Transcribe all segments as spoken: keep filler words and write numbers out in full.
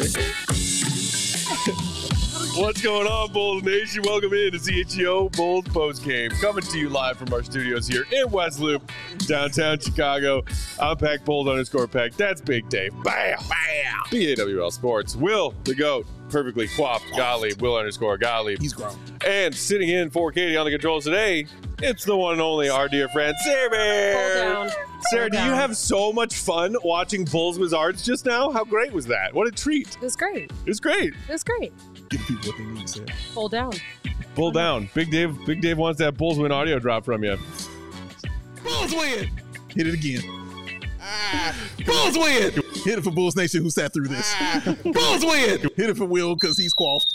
What's going on, Bulls Nation? Welcome in to C H E O Bulls Postgame. Coming to you live from our studios here in West Loop, downtown Chicago. I'm Pack Bulls underscore Pack. That's Big Dave. Bam! Bam! B A W L Sports. Will, the GOAT, perfectly coiffed Gottlieb. Will underscore Gottlieb. He's grown. And sitting in for Katie on the controls today, it's the one and only our dear friend, Sarah Bear. Hold down. Sarah, Hold do you down. have so much fun watching Bulls Wizards just now? How great was that? What a treat. It was great. It was great. It was great. Give people what they need, Sarah. Hold down. Pull down. Big Dave Big Dave wants that Bulls win audio drop from you. Bulls win! Hit it again. Ah, Bulls win! Hit it for Bulls Nation who sat through this. Ah, Bulls win! Hit it for Will because he's coiffed.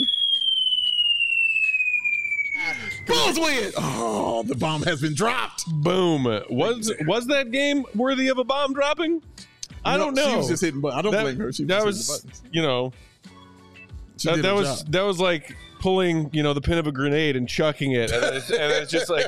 Bulls win! Oh, the bomb has been dropped. Boom. Was was that game worthy of a bomb dropping? I No, don't know. She was just hitting buttons. I don't that, blame her. She was that just was, hitting buttons. you know, She that, did that her was job. that was like pulling, you know, the pin of a grenade and chucking it, and it's, and it's just like,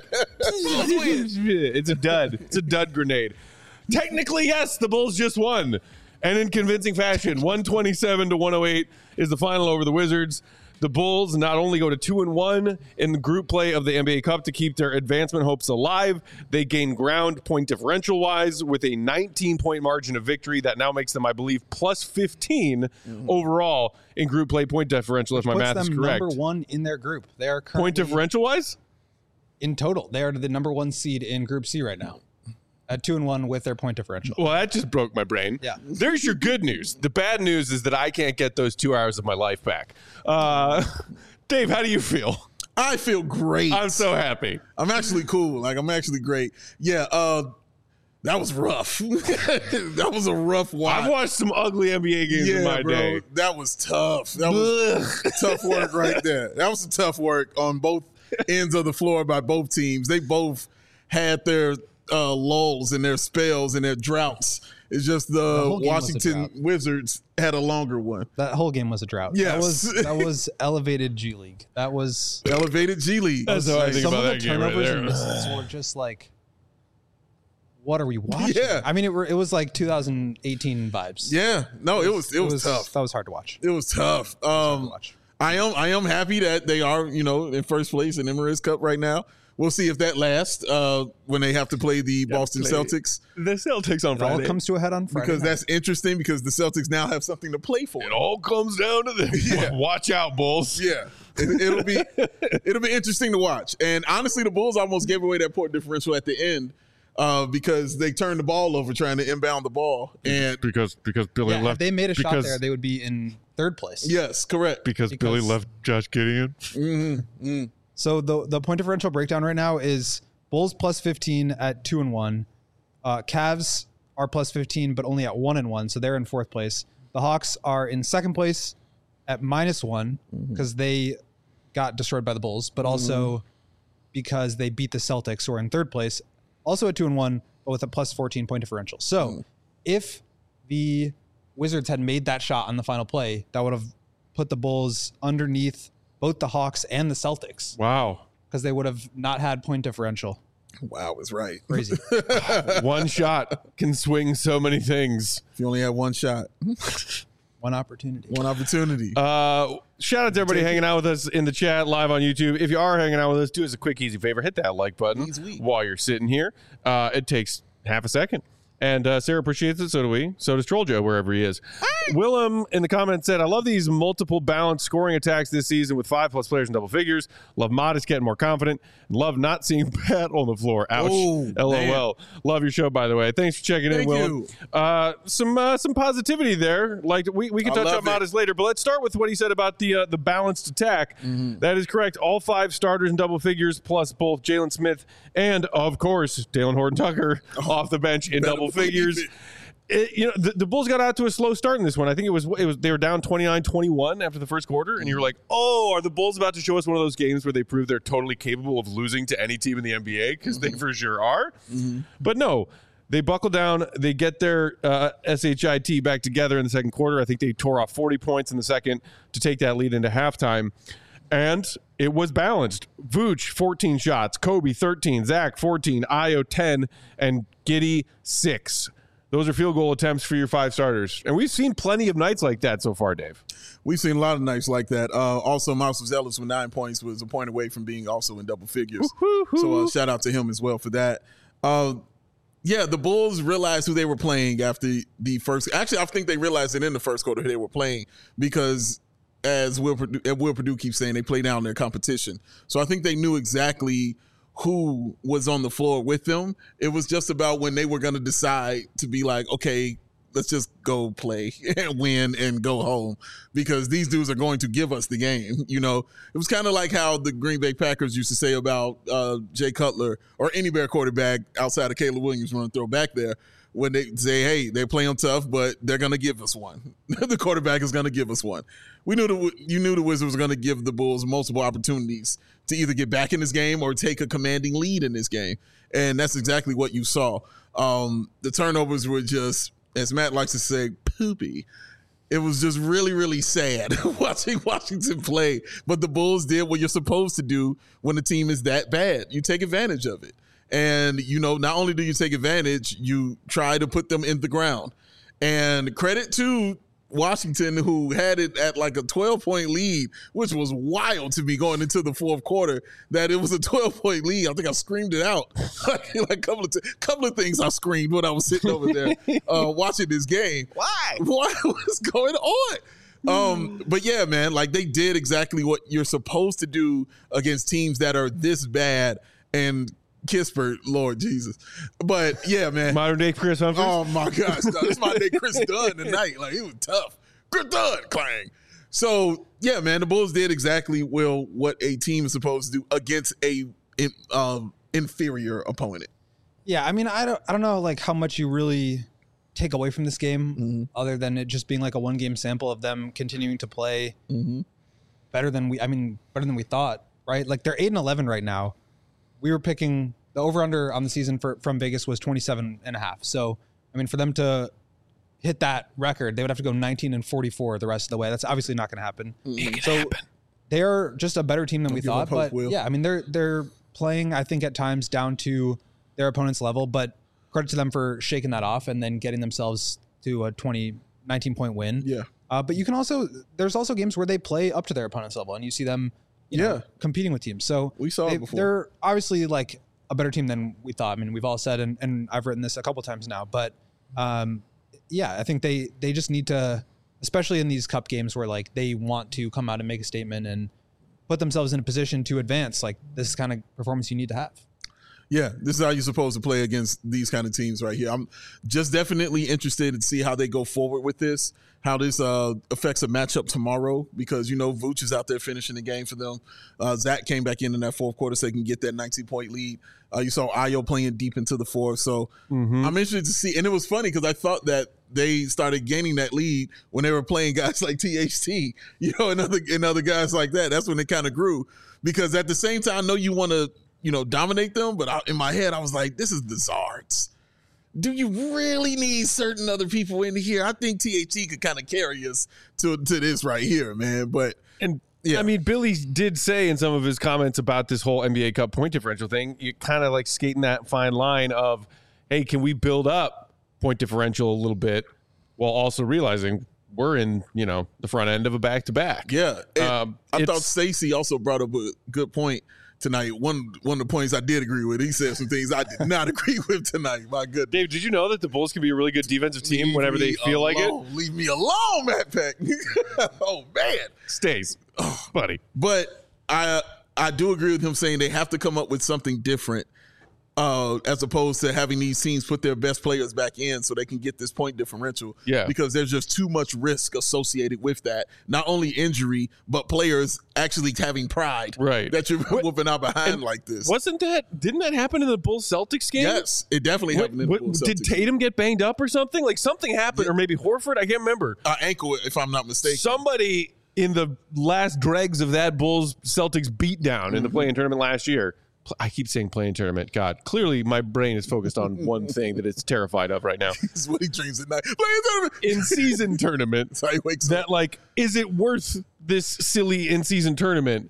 it's a dud. It's a dud grenade. Technically, yes, the Bulls just won, and in convincing fashion, one twenty-seven to one oh eight is the final over the Wizards. The Bulls not only go to two and one in the group play of the N B A Cup to keep their advancement hopes alive, they gain ground point differential wise with a nineteen point margin of victory that now makes them, I believe, plus fifteen mm-hmm. overall in group play point differential, if my Puts math is them correct. number one in their group. They are currently Point differential wise? in total. They are the number one seed in Group C right now, at two and one with their point differential. Well, that just broke my brain. Yeah. There's your good news. The bad news is that I can't get those two hours of my life back. Uh, Dave, how do you feel? I feel great. I'm so happy. I'm actually cool. Like, I'm actually great. Yeah, uh, that was rough. That was a rough watch. I've watched some ugly N B A games yeah, in my bro, day. That was tough. That was tough work right there. That was some tough work on both ends of the floor by both teams. They both had their uh, lulls and their spells and their droughts. It's just the, The whole game was a Washington drought. Wizards had a longer one. That whole game was a drought. Yes. That was that was elevated G League. That was Elevated G League. That's how I think some about of the that game right turnovers there. and misses were just like, what are we watching? Yeah. I mean, it, were, it was like two thousand eighteen vibes. Yeah, no, it was it, was, tough. That was hard to watch. It was tough. Hard to Um, watch. I am I am happy that they are, you know, in first place in Emirates Cup right now. We'll see if that lasts uh, when they have to play the Boston play Celtics, The Celtics on It all Friday. comes to a head on Friday because night. that's interesting because the Celtics now have something to play for. It all comes down to this. Yeah. Watch out, Bulls. Yeah, it, it'll be it'll be interesting to watch. And honestly, the Bulls almost gave away that point differential at the end uh, because they turned the ball over trying to inbound the ball. And Because because Billy yeah, if left. they made a shot because, there, they would be in third place. yes, correct. because, because- Billy left Josh Gideon. Mm-hmm. So the the point differential breakdown right now is Bulls plus fifteen at two and one. Uh, Cavs are plus fifteen, but only at one and one, so they're in fourth place. The Hawks are in second place at minus one because they got destroyed by the Bulls, but also because they beat the Celtics, who are in third place, also at two and one, but with a plus fourteen point differential. So if the Wizards had made that shot on the final play, that would have put the Bulls underneath both the Hawks and the Celtics, Wow. because they would have not had point differential. Wow, is right. Crazy. One shot can swing so many things. If you only had one shot, One opportunity. one opportunity. Uh, shout out to everybody hanging out with us in the chat live on YouTube. If you are hanging out with us, do us a quick, easy favor. Hit that like button Easy week. while you're sitting here. Uh, it takes half a second. And uh, Sarah appreciates it. So do we. So does Troll Joe, wherever he is. Willem in the comments said, I love these multiple balanced scoring attacks this season with five plus players in double figures. Love Modest getting more confident. Love not seeing Pat on the floor. Ouch. Oh, LOL. Love your show, by the way. Thanks for checking in, Thank Willem. you. Uh, some uh, some positivity there. Like we, we can I touch love on it. Modest later, but let's start with what he said about the uh, the balanced attack. Mm-hmm. That is correct. All five starters in double figures, plus both Jalen Smith and, of course, Dalen Horton-Tucker off the bench in better double believe figures. it. It, you know, the, the Bulls got out to a slow start in this one. I think it was it was they were down twenty-nine twenty-one after the first quarter, and you're like, oh, are the Bulls about to show us one of those games where they prove they're totally capable of losing to any team in the N B A? Because they for sure are. But no, they buckle down. They get their uh, shit back together in the second quarter. I think they tore off forty points in the second to take that lead into halftime. And it was balanced. Vooch, fourteen shots. Kobe, thirteen. Zach, fourteen. Io, ten. And Giddey, six. those are field goal attempts for your five starters. And we've seen plenty of nights like that so far, Dave. We've seen a lot of nights like that. Uh, also, Miles Zealous with nine points was a point away from being also in double figures. Woo-hoo-hoo. So uh, shout out to him as well for that. Uh, yeah, the Bulls realized who they were playing after the first. Actually, I think they realized it in the first quarter who they were playing because, as Will Purdue, Will Purdue keeps saying, they play down their competition. So I think they knew exactly who was on the floor with them. It was just about when they were going to decide to be like, okay, let's just go play and win and go home because these dudes are going to give us the game. You know, it was kind of like how the Green Bay Packers used to say about uh, Jay Cutler or any Bear quarterback outside of Caleb Williams when throw back there when they say, hey, they're playing tough, but they're going to give us one. The quarterback is going to give us one. We knew the, you knew the Wizards were going to give the Bulls multiple opportunities to either get back in this game or take a commanding lead in this game. And that's exactly what you saw. Um, the turnovers were just, as Matt likes to say, poopy. It was just really, really sad watching Washington play. But the Bulls did what you're supposed to do when the team is that bad. You take advantage of it. And, you know, not only do you take advantage, you try to put them in the ground. And credit to Washington, who had it at like a twelve-point lead, which was wild to me going into the fourth quarter, that it was a twelve-point lead. I think I screamed it out. like a couple of, t- couple of things I screamed when I was sitting over there uh, watching this game. Why? What was going on? Um, but yeah, man, like they did exactly what you're supposed to do against teams that are this bad. And Kispert, Lord Jesus. But yeah, man. Modern day Chris Humphries. Oh my gosh. No, this is my day Chris Dunn tonight. Like he was tough. Chris Dunn, clang. So yeah, man, the Bulls did exactly well what a team is supposed to do against a um, inferior opponent. Yeah, I mean, I don't, I don't know, like how much you really take away from this game, mm-hmm. other than it just being like a one game sample of them continuing to play mm-hmm. better than we. I mean, better than we thought, right? Like they're eight and eleven right now. We were picking the over under on the season for from Vegas was twenty-seven and a half. So, I mean, for them to hit that record, they would have to go nineteen and forty-four the rest of the way. That's obviously not going to happen. Mm-hmm. So happen. They're just a better team than Don't we give thought. up hope, But Will. yeah, I mean, they're they're playing, I think, at times down to their opponent's level. But credit to them for shaking that off and then getting themselves to a twenty, nineteen point win. Yeah. Uh, but you can also, there's also games where they play up to their opponent's level and you see them, you know, Yeah. competing with teams. So We saw it they, before. They're obviously like a better team than we thought. I mean, we've all said, and, and I've written this a couple times now, but um, yeah, I think they, they just need to, especially in these cup games where like they want to come out and make a statement and put themselves in a position to advance. Like this is kind of performance you need to have. Yeah, this is how you're supposed to play against these kind of teams right here. I'm just definitely interested to see how they go forward with this, how this uh, affects a matchup tomorrow because, you know, Vooch is out there finishing the game for them. Uh, Zach came back in in that fourth quarter so they can get that nineteen-point lead. Uh, you saw Ayo playing deep into the fourth. So Mm-hmm. I'm interested to see. And it was funny because I thought that they started gaining that lead when they were playing guys like T H T, you know, and other, and other guys like that. That's when it kind of grew because at the same time, I know you want to, you know, dominate them. But I, in my head, I was like, this is the Zards. Do you really need certain other people in here? I think T H T could kind of carry us to, to this right here, man. But And yeah. I mean, Billy did say in some of his comments about this whole N B A Cup point differential thing, you kind of like skating that fine line of, hey, can we build up point differential a little bit while also realizing we're in, you know, the front end of a back-to-back. yeah, and Um, I thought it's- Stacey also brought up a good point tonight. One one of the points I did agree with. He said some things I did not agree with tonight. My goodness. Dave, did you know that the Bulls can be a really good defensive team Leave whenever they me feel like it? alone. Leave me alone, Matt Peck. Oh, man. Stays, buddy. But I I do agree with him saying they have to come up with something different uh, as opposed to having these teams put their best players back in so they can get this point differential. Yeah. Because there's just too much risk associated with that. Not only injury, but players actually having pride. Right. That you're What- whooping out behind and like this. Wasn't that, didn't that happen in the Bulls Celtics game? Yes, it definitely What- happened in what- the Bulls did Celtics. Tatum get banged up or something? Like something happened, Yeah. or maybe Horford? I can't remember. Uh, ankle, if I'm not mistaken. Somebody in the last dregs of that Bulls Celtics beatdown in the Mm-hmm. play-in tournament last year. Pl- I keep saying play-in tournament. God, clearly my brain is focused on one thing that it's terrified of right now. This is what he dreams at night. Playing tournament. In-season tournament. That's how he wakes up. That like, is it worth this silly in-season tournament?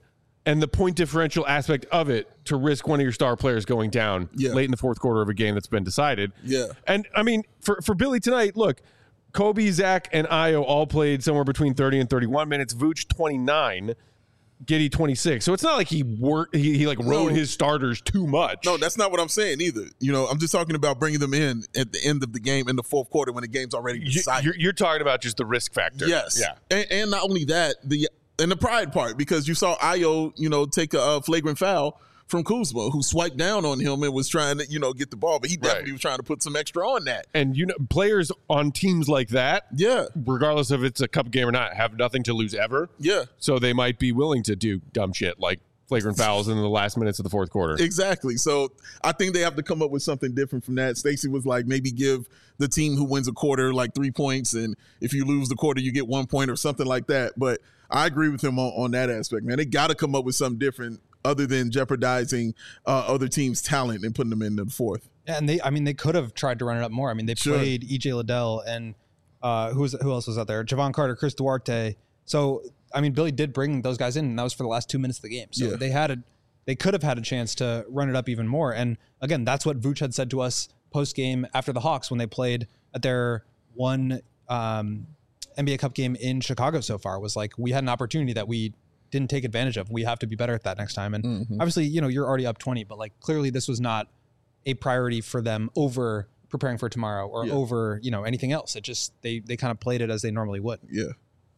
and the point differential aspect of it to risk one of your star players going down Yeah. late in the fourth quarter of a game that's been decided. Yeah. And I mean, for, for Billy tonight, look, Kobe, Zach, and Ayo all played somewhere between thirty and thirty-one minutes. Vooch twenty-nine, Giddey twenty-six. So it's not like he worked, he, he like rode No. his starters too much. No, that's not what I'm saying either. You know, I'm just talking about bringing them in at the end of the game in the fourth quarter when the game's already You- decided. you're, you're talking about just the risk factor. Yes. Yeah. And, and not only that, the and the pride part, because you saw Ayo, you know, take a, uh flagrant foul from Kuzma, who swiped down on him and was trying to, you know, get the ball, but he definitely Right. was trying to put some extra on that. And you know, players on teams like that, Yeah. regardless if it's a cup game or not, have nothing to lose ever. Yeah. So they might be willing to do dumb shit like flagrant fouls in the last minutes of the fourth quarter. Exactly. So I think they have to come up with something different from that. Stacey was like, maybe give the team who wins a quarter like three points, and if you lose the quarter, you get one point or something like that. But I agree with him on, on that aspect, man. They got to come up with something different other than jeopardizing uh, other teams' talent and putting them in the fourth. Yeah, and they, I mean, they could have tried to run it up more. I mean, they Sure. played E J Liddell and uh, who was who else was out there? Javon Carter, Chris Duarte. So, I mean, Billy did bring those guys in, and that was for the last two minutes of the game. So Yeah. they had a, they could have had a chance to run it up even more. And again, that's what Vooch had said to us post game after the Hawks when they played at their one um, N B A Cup game in Chicago so far, was like, we had an opportunity that we didn't take advantage of. We have to be better at that next time. And Mm-hmm. obviously, you know, you're already up twenty, but like clearly this was not a priority for them over preparing for tomorrow or Yeah. over, you know, anything else. It just, they, they kind of played it as they normally would. Yeah.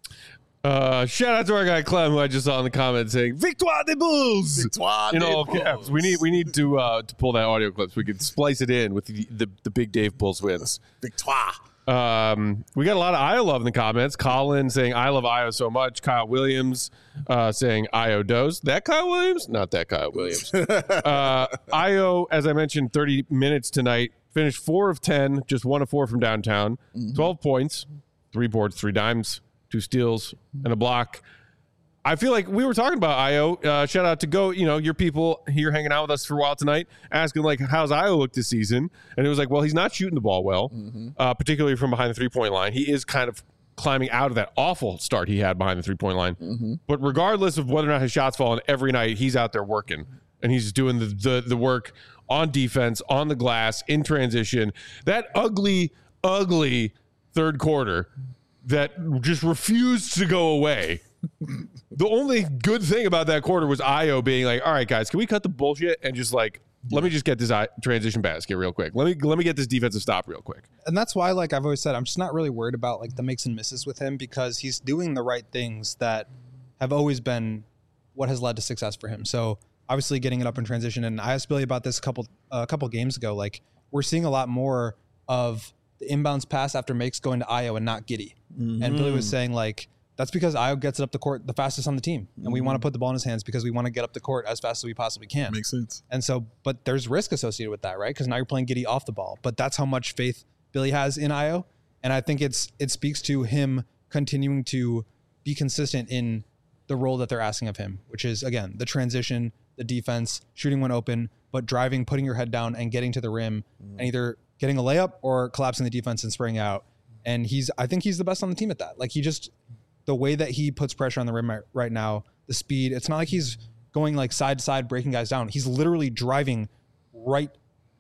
Uh, shout out to our guy Clem, who I just saw in the comments saying "Victoire des Bulls" Victoire in des all Bulls. caps. We need we need to uh, to pull that audio clip so we can splice it in with the the, the big Dave Bulls wins. Victoire. Um, we got a lot of Io love in the comments. Colin saying I love Io so much. Kyle Williams uh, saying Io does. That Kyle Williams? Not that Kyle Williams. uh, Io, as I mentioned, thirty minutes tonight. Finished four of ten, just one of four from downtown. twelve points, three boards, three dimes, two steals, and a block. I feel like we were talking about Io. Uh, shout out to Go, you know, your people here hanging out with us for a while tonight, asking like, how's Io look this season? And it was like, well, he's not shooting the ball well, uh, particularly from behind the three-point line. He is kind of climbing out of that awful start he had behind the three-point line. But regardless of whether or not his shots falling, every night he's out there working, and he's doing the the, the work on defense, on the glass, in transition. That ugly, ugly third quarter that just refused to go away. The only good thing about that quarter was Io being like, all right, guys, can we cut the bullshit and just like, let me just get this I- transition basket real quick. Let me let me get this defensive stop real quick. And that's why, like I've always said, I'm just not really worried about like the makes and misses with him, because he's doing the right things that have always been what has led to success for him. So obviously getting it up in transition. And I asked Billy about this a couple, a couple games ago. Like, we're seeing a lot more of the inbounds pass after makes going to Io and not Giddey. And Billy was saying like, that's because Io gets it up the court the fastest on the team. And we want to put the ball in his hands because we want to get up the court as fast as we possibly can. Makes sense. And so, but there's risk associated with that, right? Because now you're playing Giddey off the ball. But that's how much faith Billy has in Io. And I think it's it speaks to him continuing to be consistent in the role that they're asking of him, which is, again, the transition, the defense, shooting when open, but driving, putting your head down and getting to the rim and either getting a layup or collapsing the defense and spraying out. And he's, I think he's the best on the team at that. Like, he just, the way that he puts pressure on the rim right, right now, the speed, it's not like he's going like side to side, breaking guys down. He's literally driving right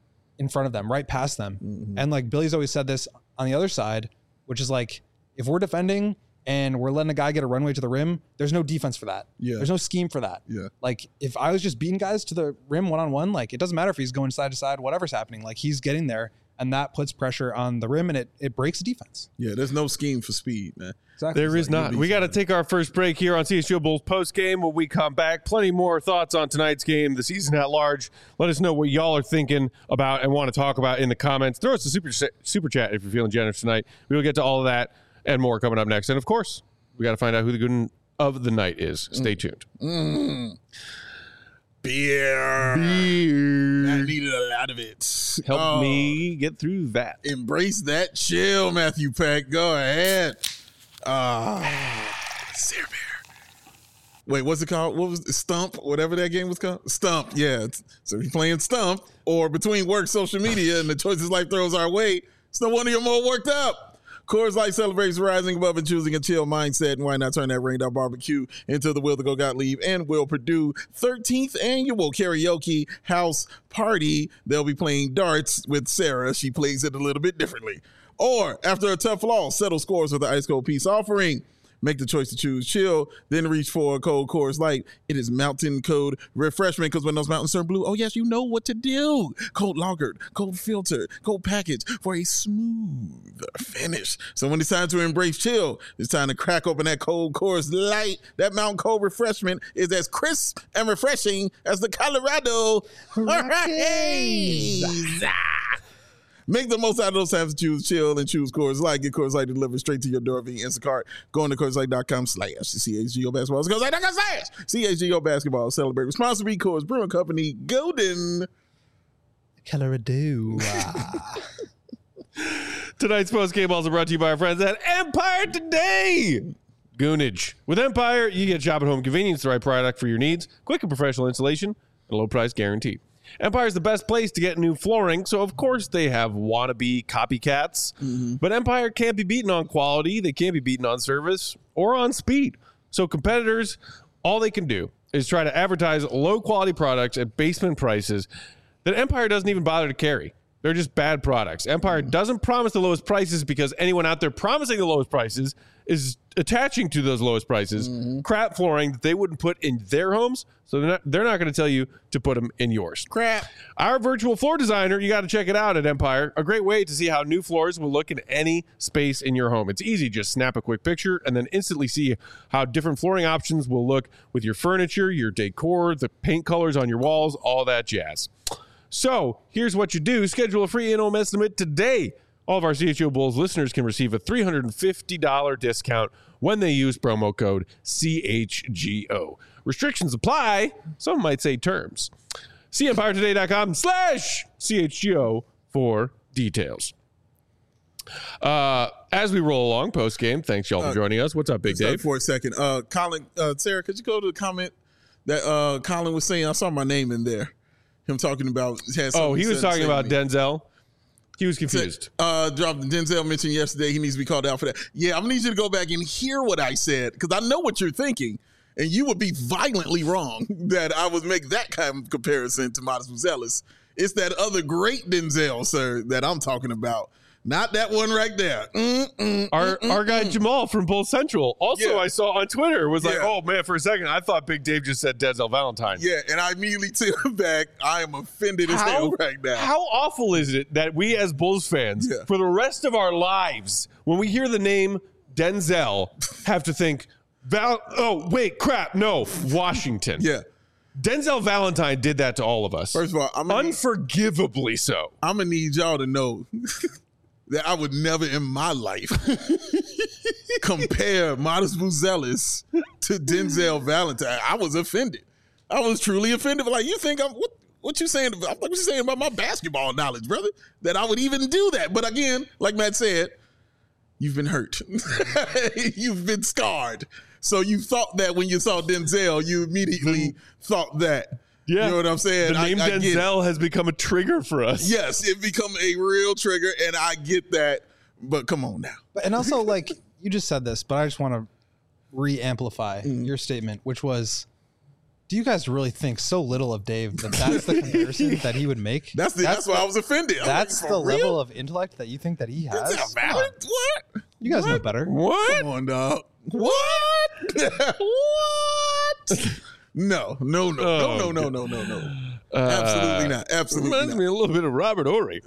in front of them, right past them. Mm-hmm. And like Billy's always said this on the other side, which is like, if we're defending and we're letting a guy get a runway to the rim, there's no defense for that. Yeah. There's no scheme for that. Yeah. Like, if I was just beating guys to the rim one-on-one, like, it doesn't matter if he's going side to side, whatever's happening, like, he's getting there, and that puts pressure on the rim, and it it breaks the defense. Yeah, there's no scheme for speed, man. Exactly. There is like, not. you'll be We got to fine. take our first break here on C S G O Bulls post game. When we come back, plenty more thoughts on tonight's game, the season at large. Let us know what y'all are thinking about and want to talk about in the comments. Throw us a super super chat if you're feeling generous tonight. We will get to all of that and more coming up next. And of course, we got to find out who the good of the night is. Stay tuned. Mm. Beer. Beer. I needed a lot of it. Help Oh, me get through that. Embrace that chill, Matthew Peck. Go ahead. Ah, Sir Beer. Wait, what's it called? What was it? Stump? Whatever that game was called? Stump, yeah. So if you're playing Stump or between work, social media, and the choices life throws our way, it's no wonder you're more worked up. Coors Light celebrates rising above and choosing a chill mindset. And why not turn that rained out barbecue into the Will to Go Gottlieb and Will Purdue thirteenth annual karaoke house party? They'll be playing darts with Sarah. She plays it a little bit differently. Or after a tough loss, settle scores with the Ice Cold Peace offering. Make the choice to choose chill, then reach for a cold Coors Light. It is mountain cold refreshment, because when those mountains turn blue, oh yes, you know what to do. Cold lagered, cold filtered, cold packaged for a smooth finish. So when it's time to embrace chill, it's time to crack open that cold Coors Light. That mountain cold refreshment is as crisp and refreshing as the Colorado Rockies. Make the most out of those times to choose chill and choose Coors Light. Get Coors Light delivered straight to your door via Instacart. Go on to Coors Light dot com slash C H G O basketball. Coors Light dot com slash C H G O basketball. Celebrate responsibly. Coors Brewing Company, Golden, Colorado. Tonight's post-game also brought to you by our friends at Empire Today. Goonage. With Empire, you get shop at home convenience, the right product for your needs, quick and professional installation, and a low price guarantee. Empire is the best place to get new flooring, so of course they have wannabe copycats. Mm-hmm. But Empire can't be beaten on quality, they can't be beaten on service, or on speed. So competitors, all they can do is try to advertise low-quality products at basement prices that Empire doesn't even bother to carry. They're just bad products. Empire mm-hmm. doesn't promise the lowest prices because anyone out there promising the lowest prices is attaching to those lowest prices mm-hmm. crap flooring that they wouldn't put in their homes, so they're not, they're not going to tell you to put them in yours. Crap. Our virtual floor designer, you got to check it out at Empire. A great way to see how new floors will look in any space in your home. It's easy. Just snap a quick picture and then instantly see how different flooring options will look with your furniture, your decor, the paint colors on your walls, all that jazz. So here's what you do. Schedule a free in-home estimate today. All of our C H G O Bulls listeners can receive a three hundred fifty dollars discount when they use promo code C H G O. Restrictions apply. Some might say terms. See empire today dot com slash C H G O for details. Uh, as we roll along post-game, thanks y'all for uh, joining us. What's up, Big Dave? For a second. Uh, Colin, uh, Sarah, could you go to the comment that uh, Colin was saying? I saw my name in there. Him talking about. Oh, he was talking about Denzel. He was confused. Uh, dropped Denzel mentioned yesterday he needs to be called out for that. Yeah, I'm gonna need you to go back and hear what I said, because I know what you're thinking, and you would be violently wrong that I would make that kind of comparison to Modest Buzelis. It's that other great Denzel, sir, that I'm talking about. Not that one right there. Mm, mm, our mm, our guy mm. Jamal from Bull Central also, yeah. I saw on Twitter, was like, yeah. oh, man, for a second, I thought Big Dave just said Denzel Valentine. Yeah, and I immediately took him back. I am offended as hell right now. How awful is it that we as Bulls fans, yeah. for the rest of our lives, when we hear the name Denzel, have to think, Val- oh, wait, crap, no, Washington. Yeah. Denzel Valentine did that to all of us. First of all, I'm gonna unforgivably need, so. I'm going to need y'all to know that I would never in my life compare Modest Buzelis to Denzel Valentine. I was offended. I was truly offended. Like, you think I'm what? What you saying? What you saying about my basketball knowledge, brother? That I would even do that? But again, like Matt said, you've been hurt. You've been scarred. So you thought that when you saw Denzel, you immediately thought that. Yeah. You know what I'm saying? The name I, I Denzel has become a trigger for us. Yes, it become a real trigger, and I get that. But come on now. But, and also, like, you just said this, but I just want to re-amplify mm. your statement, which was, do you guys really think so little of Dave that that's the comparison that he would make? That's the, that's, that's why the, I was offended. That's like, the real? level of intellect that you think that he has? Is that valid? What? You guys what? know better. What? Come on, dog. What? What? No, no, no, oh, no, no, no, no, no, no. Uh, Absolutely not. Absolutely reminds not. me a little bit of Robert Horry.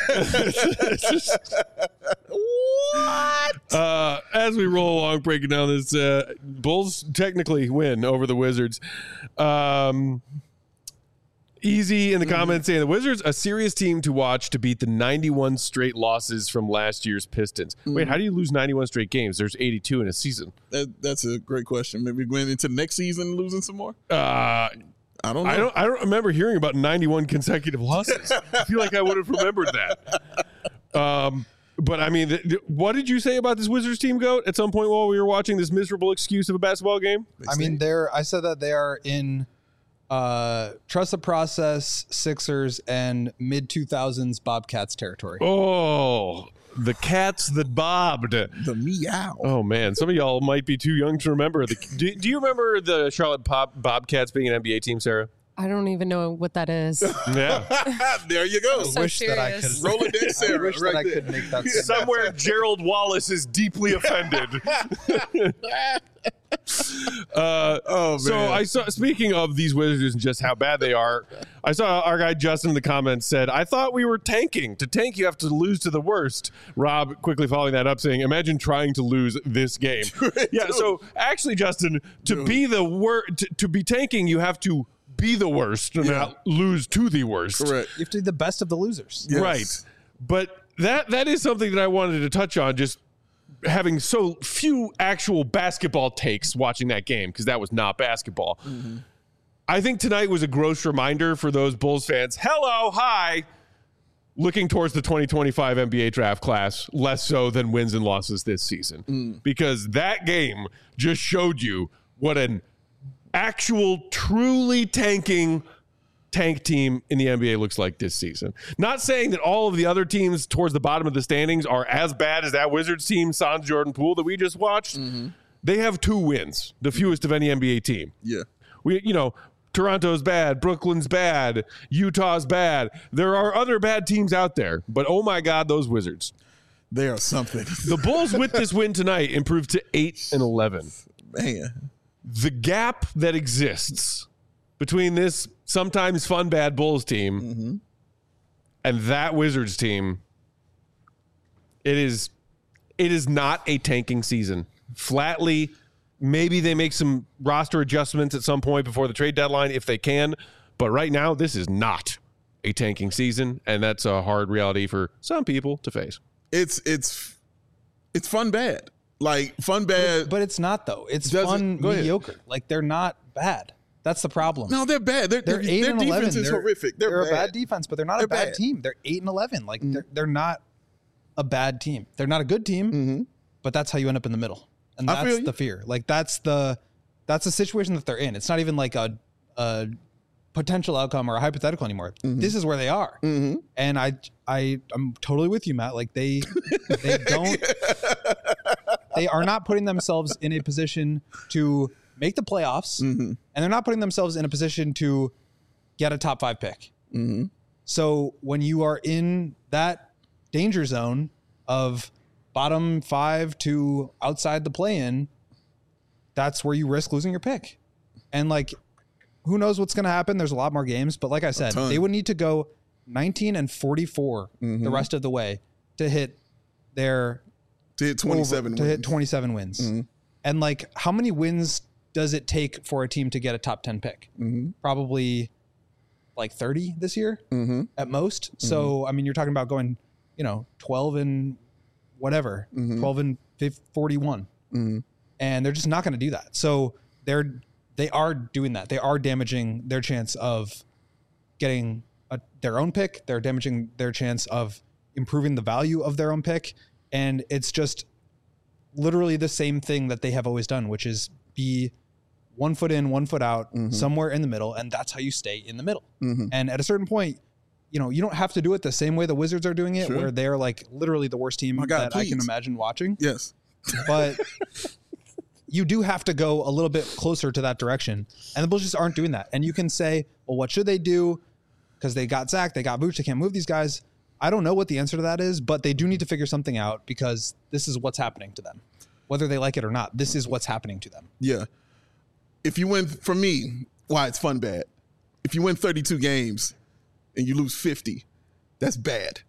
What? Uh, as we roll along, breaking down this, uh, Bulls technically win over the Wizards. Um, Easy in the comments saying the Wizards, a serious team to watch to beat the ninety-one straight losses from last year's Pistons. Mm-hmm. Wait, how do you lose ninety-one straight games? There's eighty-two in a season. That, that's a great question. Maybe going into next season losing some more? Uh, I don't know. I don't, I don't remember hearing about ninety-one consecutive losses. I feel like I would have remembered that. Um, but, I mean, th- th- what did you say about this Wizards team, Goat, at some point while we were watching this miserable excuse of a basketball game? I mean, they're. I said that they are in Uh, trust the process, Sixers, and mid two thousands Bobcats territory. Oh, the cats that bobbed. The meow. Oh man, some of y'all might be too young to remember. The, do, do you remember the Charlotte Pop Bobcats being an N B A team, Sarah? I don't even know what that is. Yeah. There you go. So wish that I serious. could Roll it there, Sarah. I wish right that I there. could make that. same- Somewhere Gerald Wallace is deeply offended. uh, Oh, man. so I saw. Speaking of these Wizards and just how bad they are, I saw our guy Justin in the comments said, "I thought we were tanking. To tank, you have to lose to the worst." Rob quickly following that up, saying, "Imagine trying to lose this game." Yeah. So actually, Justin, to Dude. be the worst, to, to be tanking, you have to be the worst and Yeah. not lose to the worst. Correct. You have to be the best of the losers. Yes. Right. But that that is something that I wanted to touch on, just having so few actual basketball takes watching that game, because that was not basketball. Mm-hmm. I think tonight was a gross reminder for those Bulls fans. Hello, hi. Looking towards the twenty twenty-five N B A draft class, less so than wins and losses this season. Mm. Because that game just showed you what an actual, truly tanking tank team in the N B A looks like this season. Not saying that all of the other teams towards the bottom of the standings are as bad as that Wizards team, Sans Jordan Poole, that we just watched. Mm-hmm. They have two wins, the fewest of any N B A team. Yeah. We, you know, Toronto's bad, Brooklyn's bad, Utah's bad. There are other bad teams out there, but oh my God, those Wizards. They are something. The Bulls with this win tonight improved to eight and eleven. Man. The gap that exists between this sometimes fun bad Bulls team Mm-hmm. and that Wizards team, it is it is not a tanking season. Flatly, maybe they make some roster adjustments at some point before the trade deadline if they can, but right now this is not a tanking season, and that's a hard reality for some people to face. It's it's it's fun bad. Like fun bad. But it's not though. It's Doesn't- fun go ahead. mediocre. Like they're not bad. That's the problem. No, they're bad. They're, They're they're, eight their and defense eleven. is They're, horrific. They're, they're bad. a bad defense, but they're not They're a bad, bad. team. They're eight and eleven. Like they're they're not a bad team. They're not a good team, Mhm. but that's how you end up in the middle, and I feel that's you. the fear. Like that's the that's the situation that they're in. It's not even like a a potential outcome or a hypothetical anymore. This is where they are, Mhm. and I I I'm totally with you, Matt. Like they they don't they are not putting themselves in a position to make the playoffs, Mhm. and they're not putting themselves in a position to get a top five pick. Mhm. So when you are in that danger zone of bottom five to outside the play-in, that's where you risk losing your pick. And like, who knows what's going to happen? There's a lot more games, but like I said, ton. they would need to go nineteen and forty-four Mhm. the rest of the way to hit their To hit twenty-seven over, to wins. hit twenty-seven wins. Mhm. And like, how many wins does it take for a team to get a top ten pick? Mhm. Probably like thirty this year Mhm. at most. So, I mean, you're talking about going, you know, twelve and whatever, Mhm. twelve and fifty, forty-one. Mhm. And they're just not going to do that. So they're, they are doing that. They are damaging their chance of getting a, their own pick. They're damaging their chance of improving the value of their own pick. And it's just literally the same thing that they have always done, which is be one foot in, one foot out, Mhm. somewhere in the middle. And that's how you stay in the middle. Mhm. And at a certain point, you know, you don't have to do it the same way the Wizards are doing it, Sure. where they're like literally the worst team My God, that I can please. imagine watching. Yes. But you do have to go a little bit closer to that direction. And the Bulls just aren't doing that. And you can say, well, what should they do? Because they got Zach, they got Vooch, they can't move these guys. I don't know what the answer to that is, but they do need to figure something out because this is what's happening to them. Whether they like it or not, this is what's happening to them. Yeah. If you win, for me, why it's fun bad. If you win thirty-two games and you lose fifty, that's bad.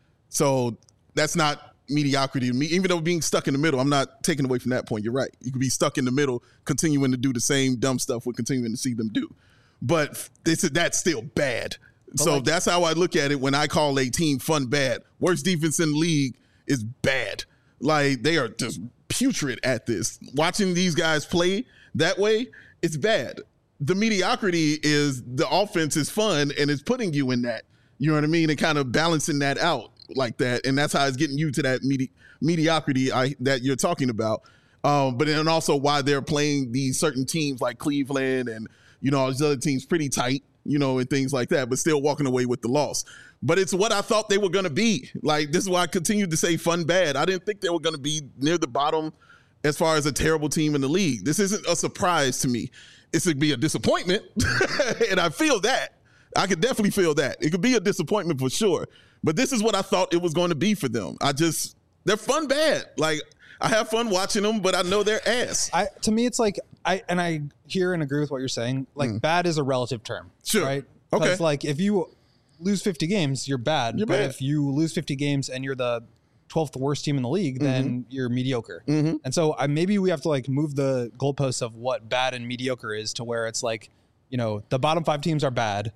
So that's not mediocrity to me. Even though being stuck in the middle, I'm not taking away from that point. You're right. You could be stuck in the middle, continuing to do the same dumb stuff we're continuing to see them do. But this, that's still bad. So like- that's how I look at it when I call a team fun bad. Worst defense in the league is bad. Like, they are just putrid at this. Watching these guys play that way, it's bad. The mediocrity is the offense is fun and it's putting you in that. You know what I mean? And kind of balancing that out like that. And that's how it's getting you to that medi- mediocrity I, that you're talking about. Um, but then also why they're playing these certain teams like Cleveland and you know, all these other teams pretty tight, you know, and things like that, but still walking away with the loss. But it's what I thought they were going to be. Like, this is why I continued to say fun bad. I didn't think they were going to be near the bottom as far as a terrible team in the league. This isn't a surprise to me. It's going to be a disappointment, and I feel that. I could definitely feel that. It could be a disappointment for sure. But this is what I thought it was going to be for them. I just, they're fun bad. Like, I have fun watching them, but I know they're ass. I, to me, it's like, I and I hear and agree with what you're saying. Like, mm. bad is a relative term. Sure. Right? Okay. Because, like, if you lose fifty games, you're bad. You're but bad. if you lose fifty games and you're the twelfth worst team in the league, mm-hmm. then you're mediocre. Mm-hmm. And so I, maybe we have to, like, move the goalposts of what bad and mediocre is to where it's like, you know, the bottom five teams are bad.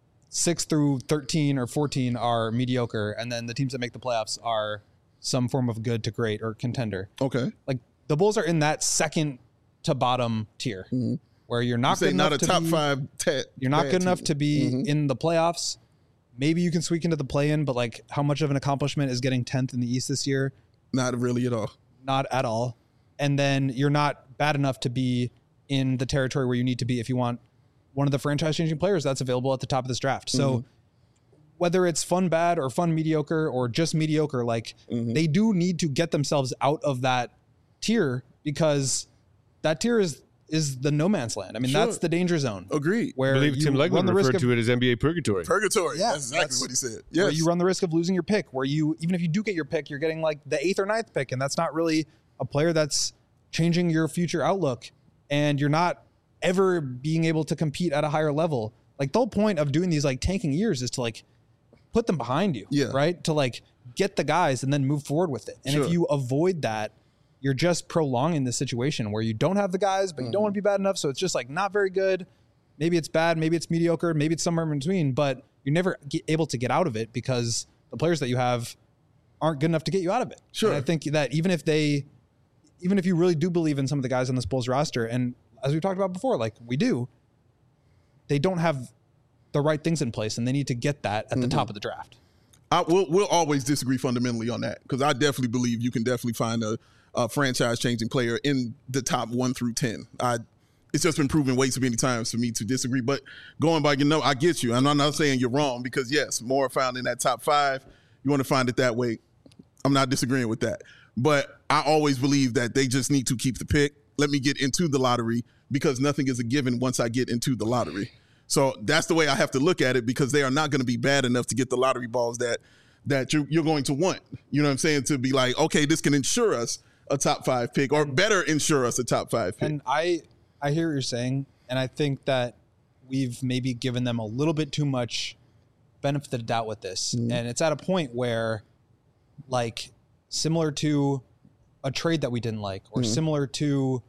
Six through thirteen or fourteen are mediocre. And then the teams that make the playoffs are some form of good to great or contender. Okay. Like, the Bulls are in that second to bottom tier mm-hmm. where you're not you good enough not a to top be, five. Te- you're not good team. enough to be mm-hmm. in the playoffs. Maybe you can squeak into the play-in, but like, how much of an accomplishment is getting tenth in the East this year? Not really at all. Not at all. And then you're not bad enough to be in the territory where you need to be if you want one of the franchise-changing players that's available at the top of this draft. So mm-hmm. whether it's fun bad or fun mediocre or just mediocre, like mm-hmm. they do need to get themselves out of that tier, because that tier is is the no man's land. I mean, sure. that's the danger zone. Agreed. I Where believe you Tim Legler run the risk referred of, to it as N B A purgatory. Purgatory. Yeah, that's exactly that's what he said. Where Yes. you run the risk of losing your pick, where you, even if you do get your pick, you're getting like the eighth or ninth pick, and that's not really a player that's changing your future outlook, and you're not ever being able to compete at a higher level. Like, the whole point of doing these like tanking years is to like put them behind you, yeah. right? To like get the guys and then move forward with it. And sure. if you avoid that, you're just prolonging the situation where you don't have the guys, but you mm-hmm. don't want to be bad enough. So it's just like not very good. Maybe it's bad. Maybe it's mediocre. Maybe it's somewhere in between, but you're never get able to get out of it because the players that you have aren't good enough to get you out of it. Sure. And I think that even if they, even if you really do believe in some of the guys on this Bulls roster, and as we talked about before, like we do, they don't have the right things in place, and they need to get that at mm-hmm. the top of the draft. I, we'll, we'll always disagree fundamentally on that, because I definitely believe you can definitely find a, a franchise-changing player in the top one through ten. I, it's just been proven way too many times for me to disagree. But going by, you know, I get you. And I'm not saying you're wrong, because, yes, more found in that top five. You want to find it that way. I'm not disagreeing with that. But I always believe that they just need to keep the pick. Let me get into the lottery, because nothing is a given once I get into the lottery. So that's the way I have to look at it, because they are not going to be bad enough to get the lottery balls that that you're, you're going to want. You know what I'm saying? To be like, okay, this can ensure us a top five pick, or better ensure us a top five pick. And I, I hear what you're saying, and I think that we've maybe given them a little bit too much benefit of the doubt with this. Mm-hmm. And it's at a point where, like, similar to a trade that we didn't like, or mm-hmm. similar to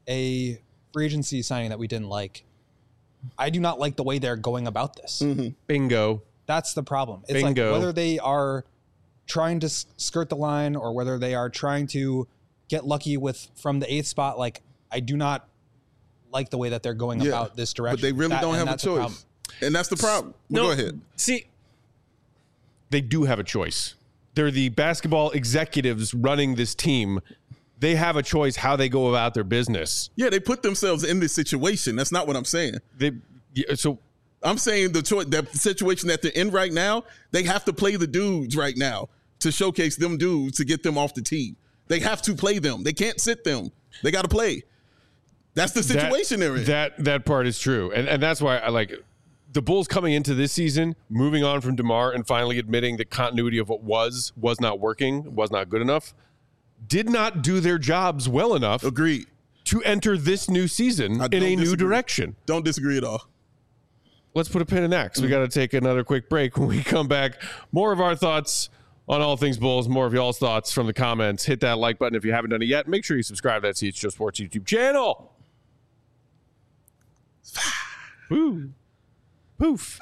a free agency signing that we didn't like, I do not like the way they're going about this. Mm-hmm. Bingo. That's the problem. It's Bingo. like whether they are trying to s- skirt the line, or whether they are trying to get lucky with from the eighth spot. Like, I do not like the way that they're going yeah, about this direction. But they really that, don't have a choice. And that's the problem. Well, no, go ahead. See, they do have a choice. They're the basketball executives running this team. They have a choice how they go about their business. Yeah, they put themselves in this situation. That's not what I'm saying. They yeah, so I'm saying the choice, the situation that they're in right now, they have to play the dudes right now to showcase them dudes to get them off the team. They have to play them. They can't sit them. They got to play. That's the situation that, they're in. That that part is true, and and that's why I like the Bulls coming into this season, moving on from DeMar and finally admitting that continuity of what was was not working, was not good enough. Did not do their jobs well enough. Agreed. To enter this new season I in a disagree. new direction. Don't disagree at all. Let's put a pin in that, because we got to take another quick break. When we come back, more of our thoughts on all things Bulls, more of y'all's thoughts from the comments. Hit that like button if you haven't done it yet. Make sure you subscribe to that C H G O Sports YouTube channel. Woo. Poof.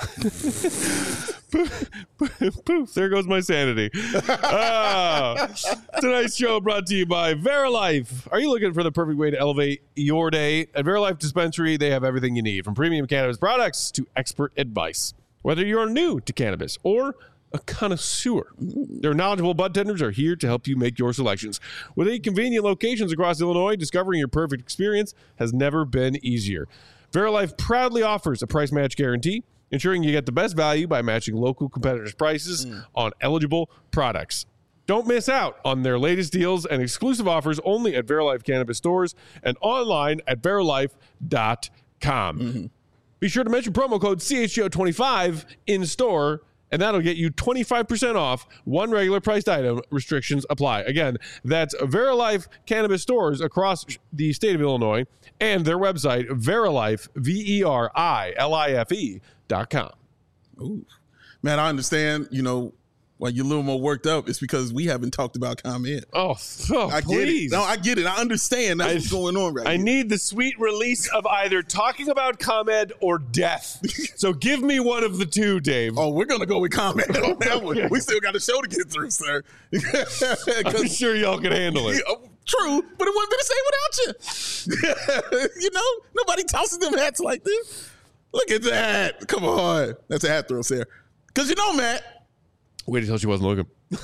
poof. Poof. There goes my sanity. Uh, tonight's show brought to you by Verilife. Are you looking for the perfect way to elevate your day? At Verilife Dispensary, they have everything you need, from premium cannabis products to expert advice. Whether you're new to cannabis or a connoisseur, their knowledgeable bud tenders are here to help you make your selections. With eight convenient locations across Illinois, discovering your perfect experience has never been easier. Verilife proudly offers a price match guarantee, ensuring you get the best value by matching local competitors' prices mm. on eligible products. Don't miss out on their latest deals and exclusive offers only at Verilife Cannabis stores and online at verilife dot com. Mm-hmm. Be sure to mention promo code C H G O twenty-five in store, and that'll get you twenty-five percent off one regular priced item. Restrictions apply. Again, that's Verilife Cannabis stores across the state of Illinois and their website, Verilife, V E R I L I F E dot com. Ooh. Man, I understand, you know, why you're a little more worked up. It's because we haven't talked about ComEd. Oh, oh I please. get it. No, I get it. I understand that's I, what's going on right now. I here. need the sweet release of either talking about ComEd or death. So give me one of the two, Dave. Oh, we're going to go with ComEd on that one. We still got a show to get through, sir. I'm sure y'all can handle it. Yeah, true, but it wouldn't be the same without you. You know, nobody tosses them hats like this. Look at that. Come on. That's a hat throw, Sarah. Because you know, Matt. Wait until she wasn't looking.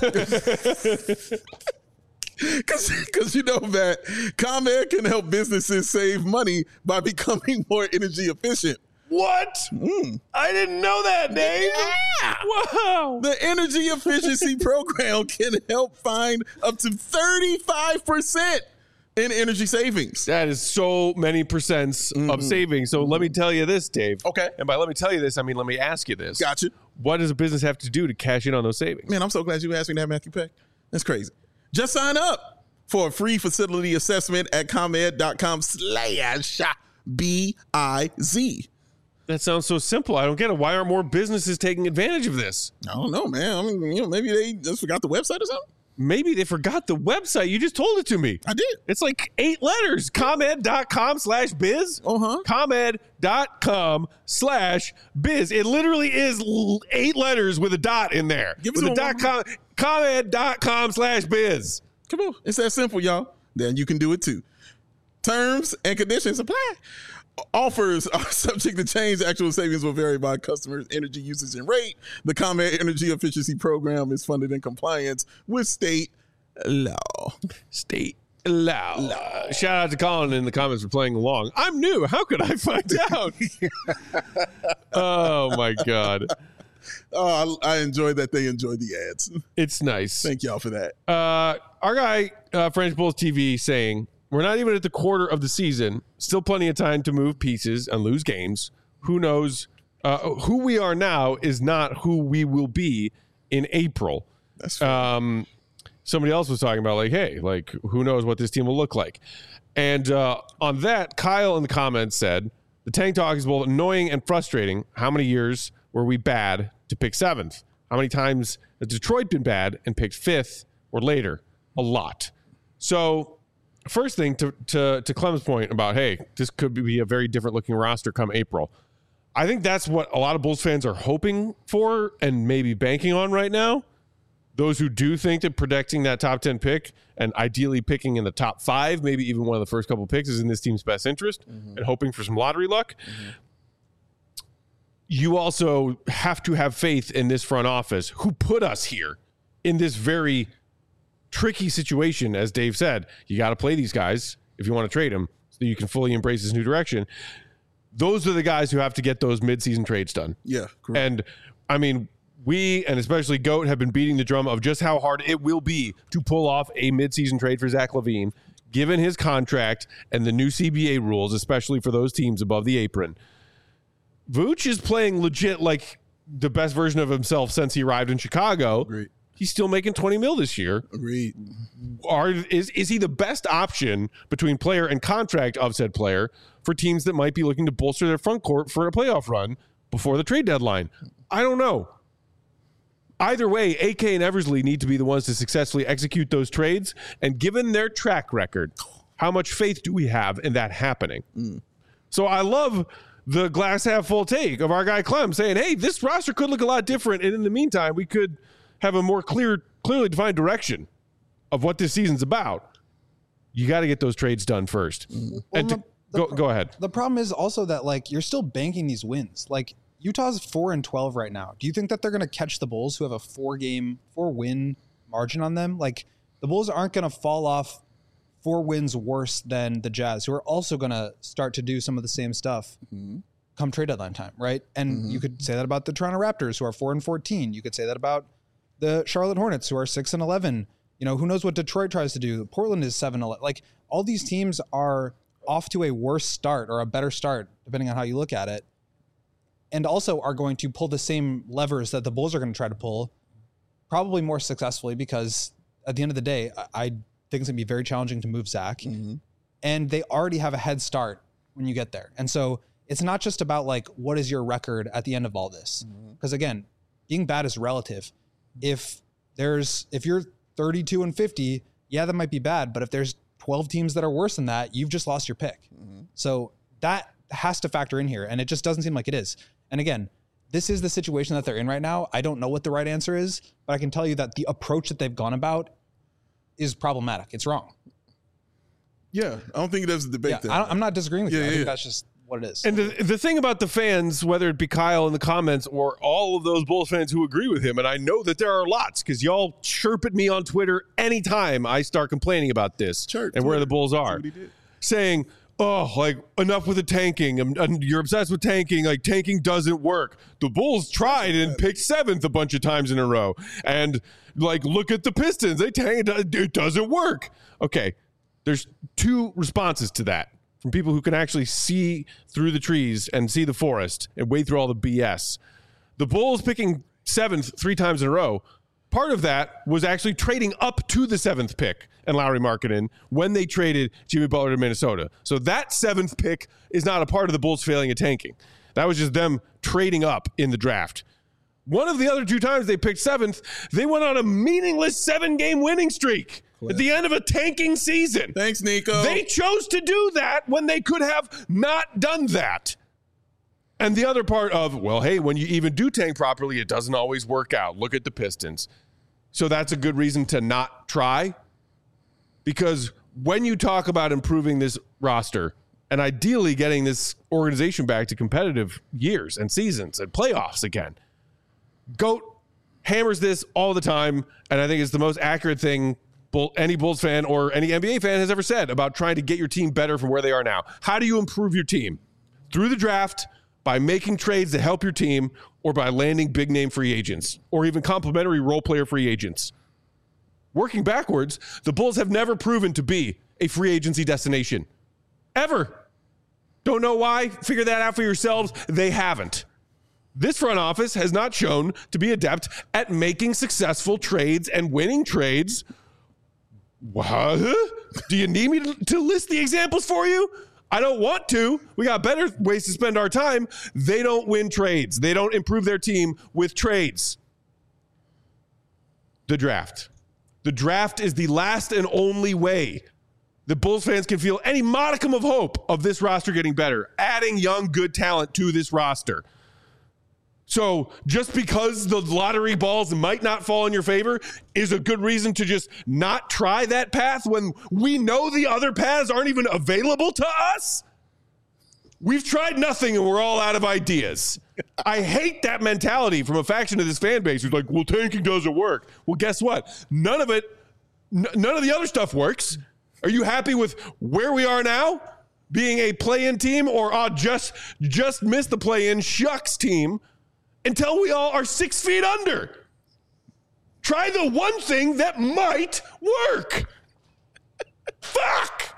Because you know that ComEd can help businesses save money by becoming more energy efficient. What? Mm. I didn't know that, Dave. Yeah. Wow. The energy efficiency program can help find up to thirty-five percent in energy savings. That is so many percents mm-hmm. of savings. So mm-hmm. let me tell you this, Dave. Okay. And by let me tell you this, I mean let me ask you this. Gotcha. What does a business have to do to cash in on those savings? Man, I'm so glad you asked me that, Matthew Peck. That's crazy. Just sign up for a free facility assessment at ComEd.com slash B-I-Z. That sounds so simple. I don't get it. Why aren't more businesses taking advantage of this? I don't know, man. I mean, you know, maybe they just forgot the website or something. Maybe they forgot the website. You just told it to me. I did. It's like eight letters. ComEd.com slash biz. Uh-huh. ComEd.com slash biz. It literally is eight letters with a dot in there. Give with a dot com. ComEd.com slash biz. Come on. It's that simple, y'all. Then you can do it too. Terms and conditions apply. Offers are subject to change. Actual savings will vary by customers' energy usage and rate. The ComEd Energy Efficiency Program is funded in compliance with state law. State law. law. Shout out to Colin in the comments for playing along. I'm new. How could I find out? Oh, my God. Oh, I, I enjoy that they enjoy the ads. It's nice. Thank y'all for that. Uh, our guy, uh, French Bulls T V, saying, we're not even at the quarter of the season. Still plenty of time to move pieces and lose games. Who knows? Uh, who we are now is not who we will be in April. That's fair. Um, somebody else was talking about like, hey, like who knows what this team will look like. And uh, on that, Kyle in the comments said, the tank talk is both annoying and frustrating. How many years were we bad to pick seventh? How many times has Detroit been bad and picked fifth or later? A lot. So first thing to, to, to Clem's point about, hey, this could be a very different looking roster come April. I think that's what a lot of Bulls fans are hoping for and maybe banking on right now. Those who do think that protecting that top ten pick and ideally picking in the top five, maybe even one of the first couple picks is in this team's best interest mm-hmm. and hoping for some lottery luck. Mm-hmm. You also have to have faith in this front office who put us here in this very tricky situation. As Dave said, you got to play these guys if you want to trade them so you can fully embrace this new direction. Those are the guys who have to get those midseason trades done. Yeah. Correct. And I mean, we, and especially Goat, have been beating the drum of just how hard it will be to pull off a midseason trade for Zach LaVine, given his contract and the new C B A rules, especially for those teams above the apron. Vooch is playing legit like the best version of himself since he arrived in Chicago. Great. He's still making twenty mil this year. Agreed. Are, is, is he the best option between player and contract of said player for teams that might be looking to bolster their front court for a playoff run before the trade deadline? I don't know. Either way, A K and Eversley need to be the ones to successfully execute those trades. And given their track record, how much faith do we have in that happening? Mm. So I love the glass half full take of our guy Clem saying, hey, this roster could look a lot different. And in the meantime, we could have a more clear, clearly defined direction of what this season's about. You got to get those trades done first. Mm. And well, to, the, go, the, go ahead. The problem is also that like you're still banking these wins. Like Utah's four and twelve right now. Do you think that they're going to catch the Bulls who have a four game, four win margin on them? Like the Bulls aren't going to fall off four wins worse than the Jazz, who are also going to start to do some of the same stuff mm-hmm. come trade deadline time, right? And mm-hmm. you could say that about the Toronto Raptors, who are four and fourteen. You could say that about the Charlotte Hornets, who are six and eleven. You know, who knows what Detroit tries to do? Portland is seven eleven. Like, all these teams are off to a worse start or a better start, depending on how you look at it, and also are going to pull the same levers that the Bulls are going to try to pull, probably more successfully, because at the end of the day, I, I think it's going to be very challenging to move Zach, mm-hmm. and they already have a head start when you get there. And so it's not just about, like, what is your record at the end of all this? Because, mm-hmm. again, being bad is relative. If there's, if you're thirty-two and fifty, yeah, that might be bad. But if there's twelve teams that are worse than that, you've just lost your pick. Mm-hmm. So that has to factor in here. And it just doesn't seem like it is. And again, this is the situation that they're in right now. I don't know what the right answer is, but I can tell you that the approach that they've gone about is problematic. It's wrong. Yeah. I don't think there's a debate yeah, there. I, I'm not disagreeing with yeah, you. I yeah, think yeah. that's just what it is. And the, the thing about the fans, whether it be Kyle in the comments or all of those Bulls fans who agree with him, and I know that there are lots because y'all chirp at me on Twitter anytime I start complaining about this Chirp, and Twitter. where the Bulls are, saying, oh, like, enough with the tanking. I'm, I'm, you're obsessed with tanking. Like, tanking doesn't work. The Bulls tried and picked seventh a bunch of times in a row. And, like, look at the Pistons. They tanked. It doesn't work. Okay, there's two responses to that from people who can actually see through the trees and see the forest and wade through all the B S. The Bulls picking seventh three times in a row, part of that was actually trading up to the seventh pick and Lauri Markkanen when they traded Jimmy Butler to Minnesota. So that seventh pick is not a part of the Bulls failing at tanking. That was just them trading up in the draft. One of the other two times they picked seventh, they went on a meaningless seven-game winning streak at the end of a tanking season. Thanks, Nico. They chose to do that when they could have not done that. And the other part of, well, hey, when you even do tank properly, it doesn't always work out. Look at the Pistons. So that's a good reason to not try. Because when you talk about improving this roster and ideally getting this organization back to competitive years and seasons and playoffs again, GOAT hammers this all the time, and I think it's the most accurate thing Bull, any Bulls fan or any N B A fan has ever said about trying to get your team better from where they are now. How do you improve your team? Through the draft, by making trades to help your team, or by landing big-name free agents, or even complimentary role-player free agents. Working backwards, the Bulls have never proven to be a free agency destination. Ever. Don't know why? Figure that out for yourselves. They haven't. This front office has not shown to be adept at making successful trades and winning trades. What? Do you need me to, to list the examples for you? I don't want to. We got better ways to spend our time. They don't win trades. They don't improve their team with trades. The draft. The draft is the last and only way the Bulls fans can feel any modicum of hope of this roster getting better, adding young, good talent to this roster. So just because the lottery balls might not fall in your favor is a good reason to just not try that path when we know the other paths aren't even available to us? We've tried nothing and we're all out of ideas. I hate that mentality from a faction of this fan base who's like, well, tanking doesn't work. Well, guess what? None of it, n- none of the other stuff works. Are you happy with where we are now? Being a play-in team or uh, just, just missed the play-in shucks team? Until we all are six feet under. Try the one thing that might work. Fuck.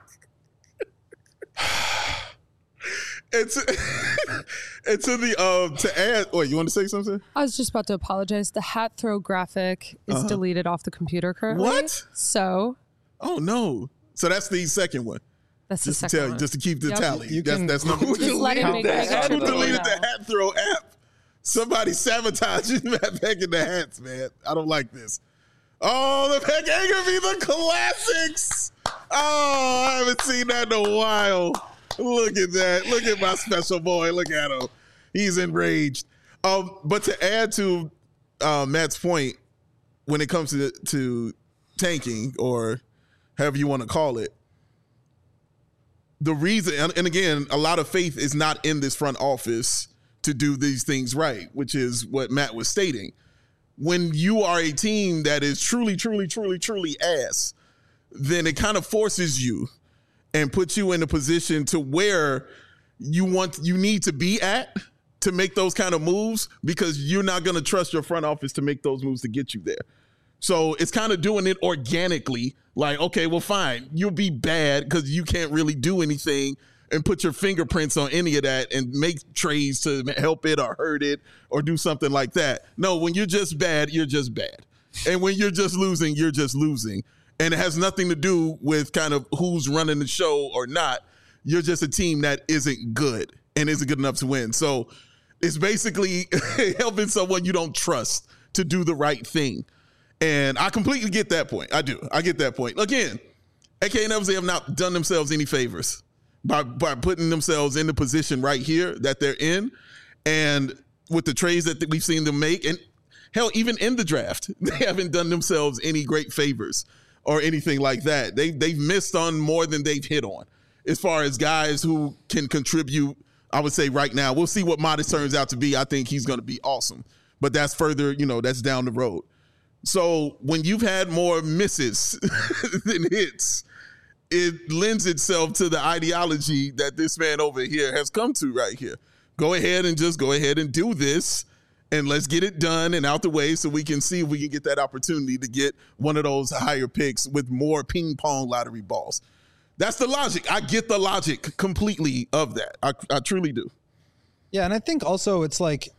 It's it's in the um to add. Wait, you want to say something? I was just about to apologize. The hat throw graphic is uh-huh. deleted off the computer currently. What? So. Oh no. So that's the second one. That's just the to second tell one. you, just to keep the yep. tally. You that's can, that's number two. Just let it make, make Who sure deleted the hat throw app? Somebody sabotaging Matt Peck in the hats, man. I don't like this. Oh, the Peck ain't gonna be the classics. Oh, I haven't seen that in a while. Look at that. Look at my special boy. Look at him. He's enraged. Um, but to add to uh, Matt's point, when it comes to to tanking or however you want to call it, the reason, and, and again, a lot of faith is not in this front office to do these things right, which is what Matt was stating. When you are a team that is truly, truly, truly, truly ass, then it kind of forces you and puts you in a position to where you want you need to be at to make those kind of moves, because you're not going to trust your front office to make those moves to get you there. So it's kind of doing it organically. Like, okay, well, fine. You'll be bad because you can't really do anything and put your fingerprints on any of that and make trades to help it or hurt it or do something like that. No, when you're just bad, you're just bad. And when you're just losing, you're just losing. And it has nothing to do with kind of who's running the show or not. You're just a team that isn't good and isn't good enough to win. So it's basically helping someone you don't trust to do the right thing. And I completely get that point. I do. I get that point. Again, A K and F Z have not done themselves any favors by, by putting themselves in the position right here that they're in. And with the trades that we've seen them make, and hell, even in the draft, they haven't done themselves any great favors or anything like that. They, they've missed on more than they've hit on as far as guys who can contribute. I would say right now, we'll see what Modest turns out to be. I think he's going to be awesome. But that's further, you know, that's down the road. So when you've had more misses than hits, it lends itself to the ideology that this man over here has come to right here. Go ahead and just go ahead and do this, and let's get it done and out the way so we can see if we can get that opportunity to get one of those higher picks with more ping pong lottery balls. That's the logic. I get the logic completely of that. I, I truly do. Yeah, and I think also it's like,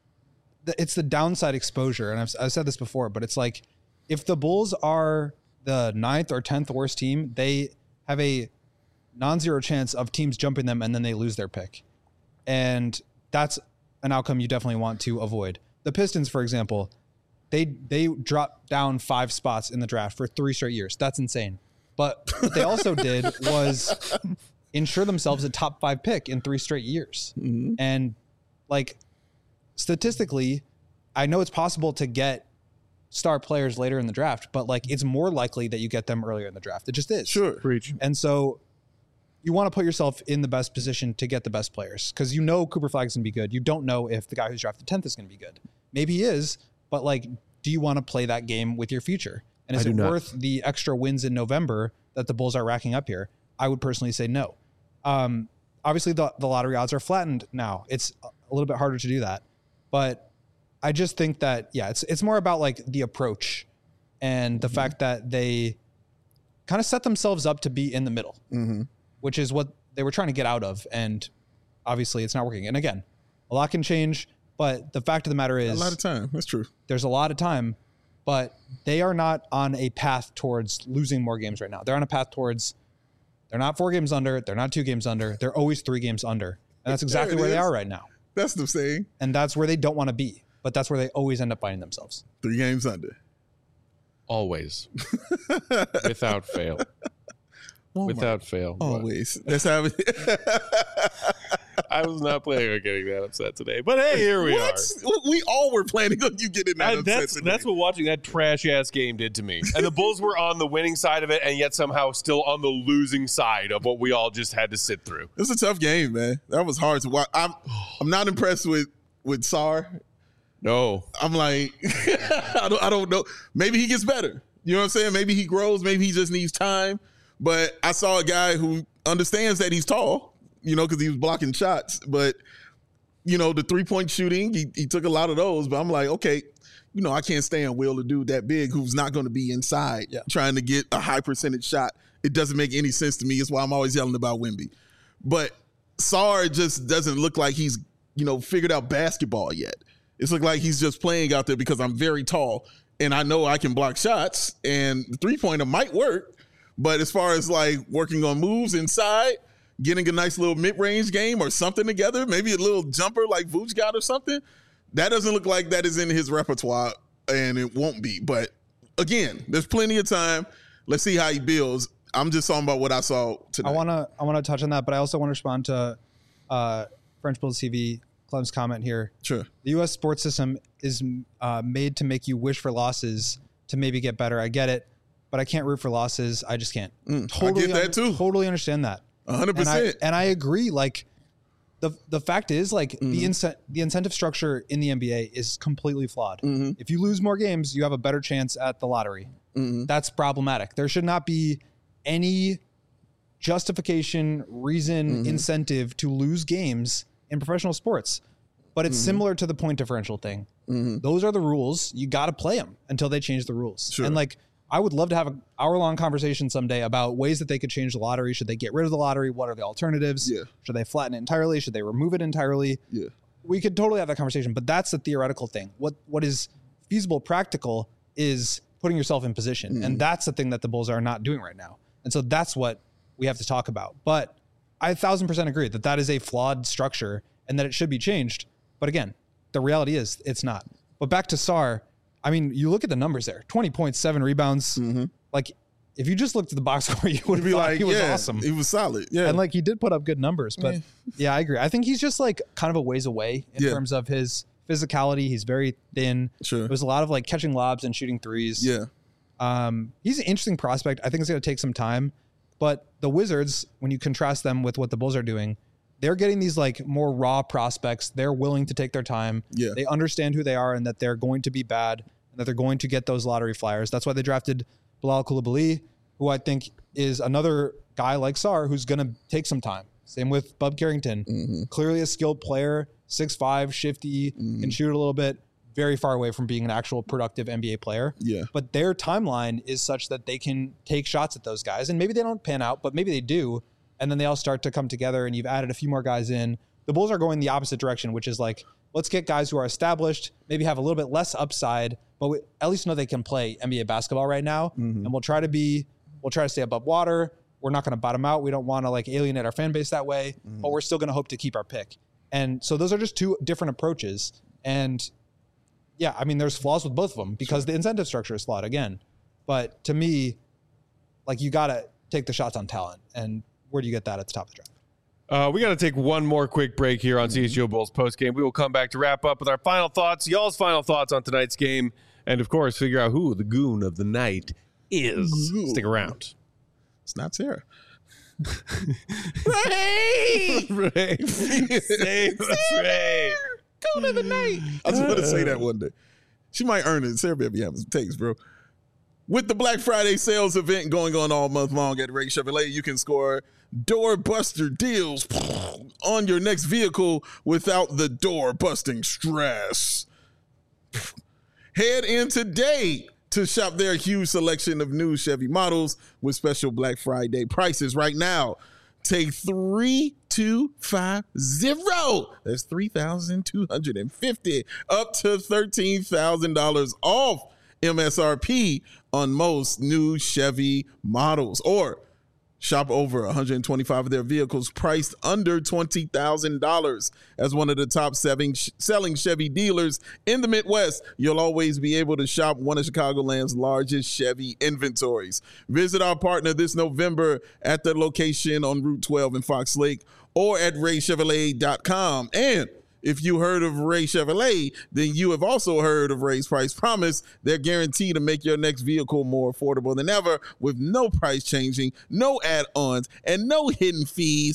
it's the downside exposure. And I've, I've said this before, but it's like, if the Bulls are the ninth or tenth worst team, they have a non-zero chance of teams jumping them and then they lose their pick. And that's an outcome you definitely want to avoid. The Pistons, for example, they they dropped down five spots in the draft for three straight years. That's insane. But what they also did was ensure themselves a top five pick in three straight years. Mm-hmm. And like, statistically, I know it's possible to get star players later in the draft, but like, it's more likely that you get them earlier in the draft. It just is. Sure. Preach. And so you want to put yourself in the best position to get the best players, because you know Cooper Flag's going to be good. You don't know if the guy who's drafted tenth is going to be good. Maybe he is, but like, do you want to play that game with your future? And is it not worth the extra wins in November that the Bulls are racking up here? I would personally say no. Um, obviously, the, the lottery odds are flattened now. It's a little bit harder to do that. But I just think that, yeah, it's it's more about like the approach and the mm-hmm. fact that they kind of set themselves up to be in the middle, mm-hmm. which is what they were trying to get out of. And obviously it's not working. And again, a lot can change, but the fact of the matter is, a lot of time. That's true. There's a lot of time, but they are not on a path towards losing more games right now. They're on a path towards, they're not four games under. They're not two games under. They're always three games under. And that's exactly where is. They are right now. That's the saying. And that's where they don't want to be. But that's where they always end up finding themselves. Three games under. Always. Without fail. Oh Without fail. Always. That's how it I was not planning on getting that upset today. But hey, here we what? are. We all were planning on you getting that I, upset that's, today. That's what watching that trash-ass game did to me. And the Bulls were on the winning side of it, and yet somehow still on the losing side of what we all just had to sit through. It was a tough game, man. That was hard to watch. I'm, I'm not impressed with, with Sarr. No. I'm like, I don't, I don't know. Maybe he gets better. You know what I'm saying? Maybe he grows. Maybe he just needs time. But I saw a guy who understands that he's tall, you know, because he was blocking shots. But, you know, the three-point shooting, he, he took a lot of those. But I'm like, okay, you know, I can't stand Will, a dude that big who's not going to be inside yeah. trying to get a high percentage shot. It doesn't make any sense to me. It's why I'm always yelling about Wemby. But Sarr just doesn't look like he's, you know, figured out basketball yet. It's look like he's just playing out there because I'm very tall and I know I can block shots and the three-pointer might work. But as far as like working on moves inside, getting a nice little mid-range game or something together, maybe a little jumper like Vooch got or something, that doesn't look like that is in his repertoire, and it won't be. But again, there's plenty of time. Let's see how he builds. I'm just talking about what I saw today. I want to I want to touch on that, but I also want to respond to uh, French Bulls T V, Clem's comment here. Sure. The U S sports system is uh, made to make you wish for losses to maybe get better. I get it, but I can't root for losses. I just can't. Mm, totally I get that un- too. Totally understand that. one hundred percent. And I, and I agree. Like, the the fact is, like, mm-hmm. the incent the incentive structure in the N B A is completely flawed. Mm-hmm. If you lose more games, you have a better chance at the lottery. Mm-hmm. That's problematic. There should not be any justification, reason, mm-hmm. incentive to lose games in professional sports. But it's mm-hmm. similar to the point differential thing. Mm-hmm. Those are the rules. You got to play them until they change the rules. Sure. And like, I would love to have an hour-long conversation someday about ways that they could change the lottery. Should they get rid of the lottery? What are the alternatives? Yeah. Should they flatten it entirely? Should they remove it entirely? Yeah. We could totally have that conversation, but that's the theoretical thing. What What is feasible, practical is putting yourself in position. Mm-hmm. And that's the thing that the Bulls are not doing right now. And so that's what we have to talk about. But I a thousand percent agree that that is a flawed structure and that it should be changed. But again, the reality is it's not. But back to Sarr, I mean, you look at the numbers there, twenty point seven rebounds. Mm-hmm. Like, if you just looked at the box score, you would be like, he was yeah, awesome. He was solid. Yeah. And like, he did put up good numbers, but yeah. yeah, I agree. I think he's just like kind of a ways away in yeah. terms of his physicality. He's very thin. Sure. There's a lot of like catching lobs and shooting threes. Yeah. Um, he's an interesting prospect. I think it's going to take some time, but the Wizards, when you contrast them with what the Bulls are doing, they're getting these like more raw prospects. They're willing to take their time. Yeah. They understand who they are and that they're going to be bad and that they're going to get those lottery flyers. That's why they drafted Bilal Coulibaly, who I think is another guy like Sarr who's going to take some time. Same with Bub Carrington. Mm-hmm. Clearly a skilled player, six five, shifty, mm-hmm. can shoot a little bit, very far away from being an actual productive N B A player. Yeah. But their timeline is such that they can take shots at those guys. And maybe they don't pan out, but maybe they do. And then they all start to come together and you've added a few more guys in. The Bulls are going the opposite direction, which is like, let's get guys who are established, maybe have a little bit less upside, but we at least know they can play N B A basketball right now. Mm-hmm. And we'll try to be, we'll try to stay above water. We're not going to bottom out. We don't want to like alienate our fan base that way, mm-hmm. but we're still going to hope to keep our pick. And so those are just two different approaches. And yeah, I mean, there's flaws with both of them because sure. the incentive structure is flawed again. But to me, like, you got to take the shots on talent. And where do you get that at the top of the draft? Uh, we got to take one more quick break here on C H G O Bulls postgame. We will come back to wrap up with our final thoughts, y'all's final thoughts on tonight's game, and of course, figure out who the goon of the night is. Ooh. Stick around. It's not Sarah. Ray! Ray. Save us, Ray. Goon of the night. I was going to say that one day. She might earn it. Sarah be having some takes, bro. With the Black Friday sales event going on all month long at Ray Chevrolet, you can score doorbuster deals on your next vehicle without the door-busting stress. Head in today to shop their huge selection of new Chevy models with special Black Friday prices right now. Take three two five zero. That's three thousand two hundred fifty dollars up to thirteen thousand dollars off M S R P on most new Chevy models, or shop over one hundred twenty-five of their vehicles priced under twenty thousand dollars. As one of the top seven sh- selling Chevy dealers in the Midwest, you'll always be able to shop one of Chicagoland's largest Chevy inventories. Visit our partner this November at their location on Route twelve in Fox Lake or at ray chevrolet dot com. And if you heard of Ray Chevrolet, then you have also heard of Ray's Price Promise. They're guaranteed to make your next vehicle more affordable than ever with no price changing, no add-ons, and no hidden fees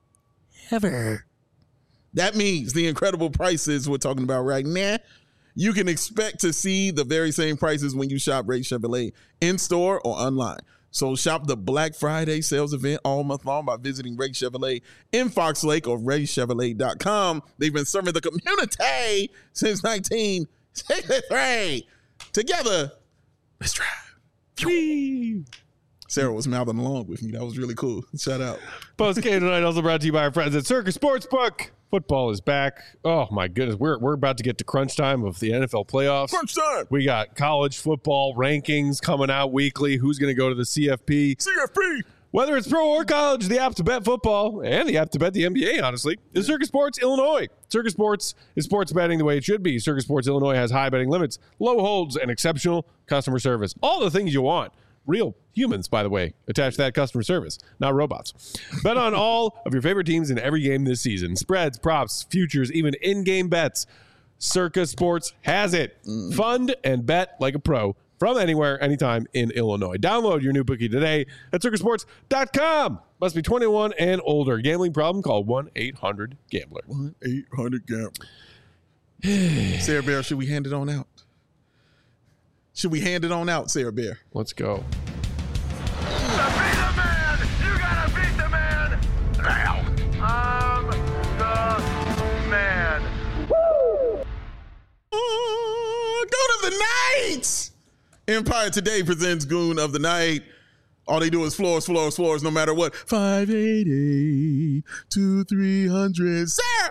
ever. That means the incredible prices we're talking about right now, you can expect to see the very same prices when you shop Ray Chevrolet in-store or online. So shop the Black Friday sales event all month long by visiting Ray Chevrolet in Fox Lake or ray chevrolet dot com. They've been serving the community since nineteen sixty-three. Together, let's drive. Whee! Sarah was mouthing along with me. That was really cool. Shout out. Post game tonight also brought to you by our friends at Circus Sportsbook. Football is back. Oh my goodness, we're we're about to get to crunch time of the N F L playoffs. Crunch time. We got college football rankings coming out weekly. Who's going to go to the C F P? C F P. Whether it's pro or college, the app to bet football and the app to bet the N B A, honestly, is Circus Sports Illinois. Circus Sports is sports betting the way it should be. Circus Sports Illinois has high betting limits, low holds, and exceptional customer service. All the things you want. Real humans, by the way, attached to that customer service, not robots. Bet on all of your favorite teams in every game this season. Spreads, props, futures, even in-game bets. Circus Sports has it. Mm. Fund and bet like a pro. from anywhere, anytime in Illinois. Download your new bookie today at circa sports dot com. Must be twenty-one and older. Gambling problem? Call one eight hundred gambler. one eight hundred gambler. Sarah Bear, should we hand it on out? Should we hand it on out, Sarah Bear? Let's go. Night. Empire Today presents Goon of the Night. All they do is floors, floors, floors, no matter what. five eighty-eight to three hundred. Sarah!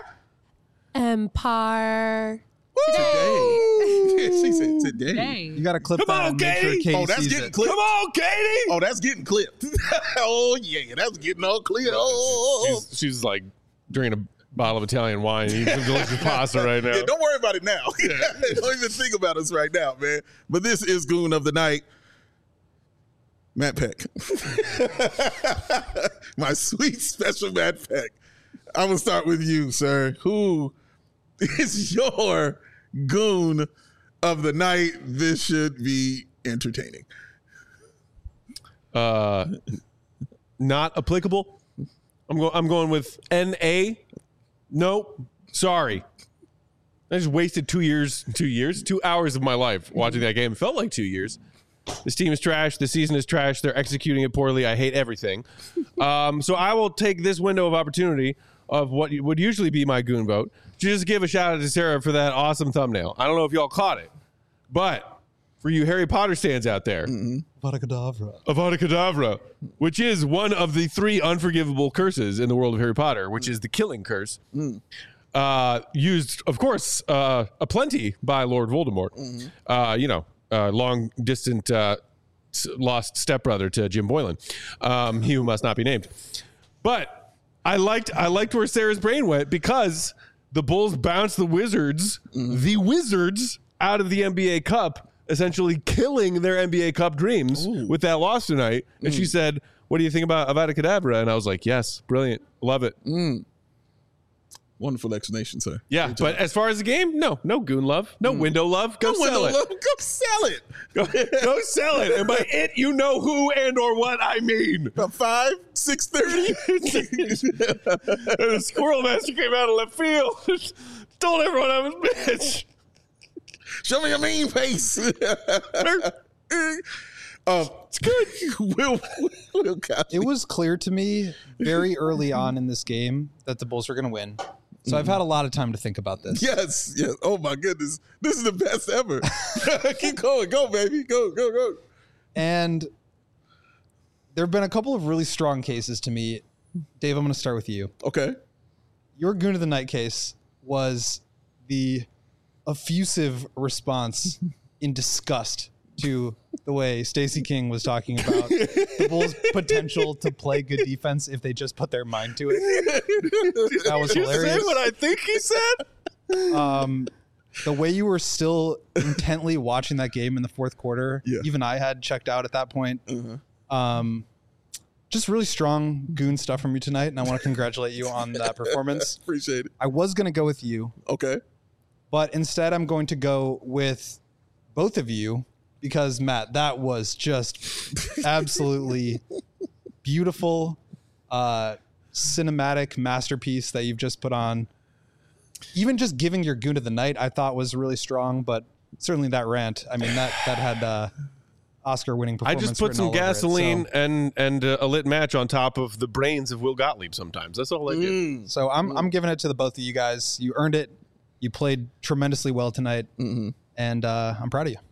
Empire. Today. She said today. Today. You got to clip Come that on, and make sure Katie. Katie Oh, that's sees getting it. clipped. Come on, Katie! Oh, that's getting clipped. Oh, yeah, that's getting all clear. Oh, She's, she's like drinking a bottle of Italian wine and eating some delicious pasta right now. yeah, don't worry about it now. Don't even think about us right now, man. But this is Goon of the Night. Matt Peck. My sweet special Matt Peck. I'm going to start with you, sir. Who is your Goon of the Night? This should be entertaining. Uh, not applicable. I'm going. I'm going with N A. Nope. Sorry. I just wasted two years, two years, two hours of my life watching that game. It felt like two years. This team is trash. The season is trash. They're executing it poorly. I hate everything. Um, so I will take this window of opportunity of what would usually be my goon vote to just give a shout out to Sarah for that awesome thumbnail. I don't know if y'all caught it, but for you Harry Potter stands out there, Avada Kedavra. Avada Kedavra, which is one of the three unforgivable curses in the world of Harry Potter, which is the killing curse. Mm. Uh, used, of course, uh, aplenty by Lord Voldemort. Mm-hmm. Uh, you know, uh, long distant uh, s- lost stepbrother to Jim Boylan. Um, he who must not be named. But I liked I liked where Sarah's brain went because the Bulls bounced the Wizards, Mm-hmm. the Wizards, out of the N B A Cup, essentially killing their N B A Cup dreams Ooh. with that loss tonight. And Mm. she said, "What do you think about Avada Kedavra?" And I was like, "Yes, brilliant, love it." Mm. Wonderful explanation, sir. Yeah, but as far as the game, no, no goon love, no window love. Go Go sell it. Go sell it. Go, go sell it. And by it, you know who and or what I mean. About five, six thirty. And the Squirrel Master came out of left field, told everyone I was bitch. Show me your mean face. um, it's good. Will, Will Cosby. It was clear to me very early on in this game that the Bulls were going to win. So I've had a lot of time to think about this. Yes, yes. Oh my goodness, this is the best ever. Keep going, go baby, go, go, go. And there have been a couple of really strong cases to me. Dave, I'm going to start with you. Okay. Your Goon of the Night case was the effusive response in disgust to the way Stacey King was talking about the Bulls' potential to play good defense if they just put their mind to it. That was Did you hilarious. say what I think he said? Um, the way you were still intently watching that game in the fourth quarter, Yeah. even I had checked out at that point. Uh-huh. Um, just really strong goon stuff from you tonight, and I want to congratulate you on that performance. Appreciate it. I was going to go with you, Okay. but instead I'm going to go with both of you because, Matt, that was just absolutely beautiful, uh, cinematic masterpiece that you've just put on. Even just giving your Goon of the Night, I thought was really strong, but certainly that rant, I mean, that that had uh, Oscar-winning I performance. just put written some all over it, gasoline so- and and uh, a lit match on top of the brains of Will Gottlieb sometimes. That's all I do. Mm. So I'm I'm giving it to the both of you guys. You earned it. You played tremendously well tonight, Mm-hmm. and uh, I'm proud of you.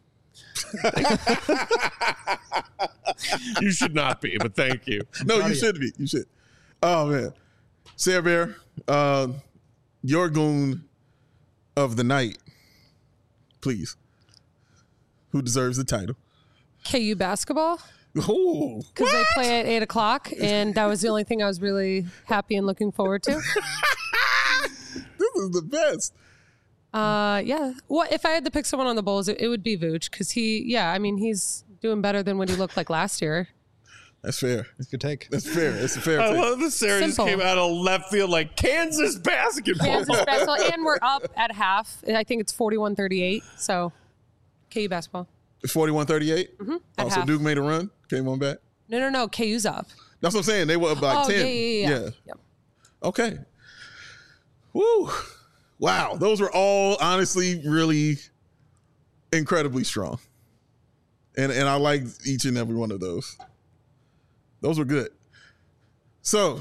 You should not be, but thank you. No, proud you of you. should be. You should. Oh man, Sarah Bear, uh, your Goon of the Night, please. Who deserves the title? K U basketball Oh, because they play at eight o'clock, and that was the only thing I was really happy and looking forward to. this is the best. Uh, yeah. Well, if I had to pick someone on the Bulls, it, it would be Vooch because he, yeah, I mean, he's doing better than what he looked like last year. That's fair. It's a good take. That's fair. It's a fair I take. love that Sarah just Simple. came out of left field like Kansas basketball. Kansas basketball, and we're up at half. I think it's forty-one thirty-eight. So, K U basketball. forty-one thirty-eight? Mm-hmm. Oh, so Duke made a run, came on back? No, no, no. K U's up. That's what I'm saying. They were up like oh, ten. Yeah, yeah, yeah. yeah. Yep. Okay. Woo. Wow. Those were all honestly really incredibly strong. And and I like each and every one of those. Those were good. So,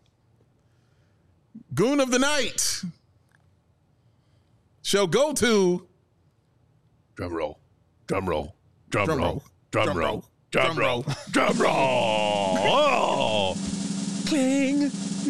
Goon of the Night shall go to Drum roll. Drum roll. Drum, Drum roll. roll. Drum, Drum roll. roll. Drum Drum roll. Drum roll. Oh. Cling.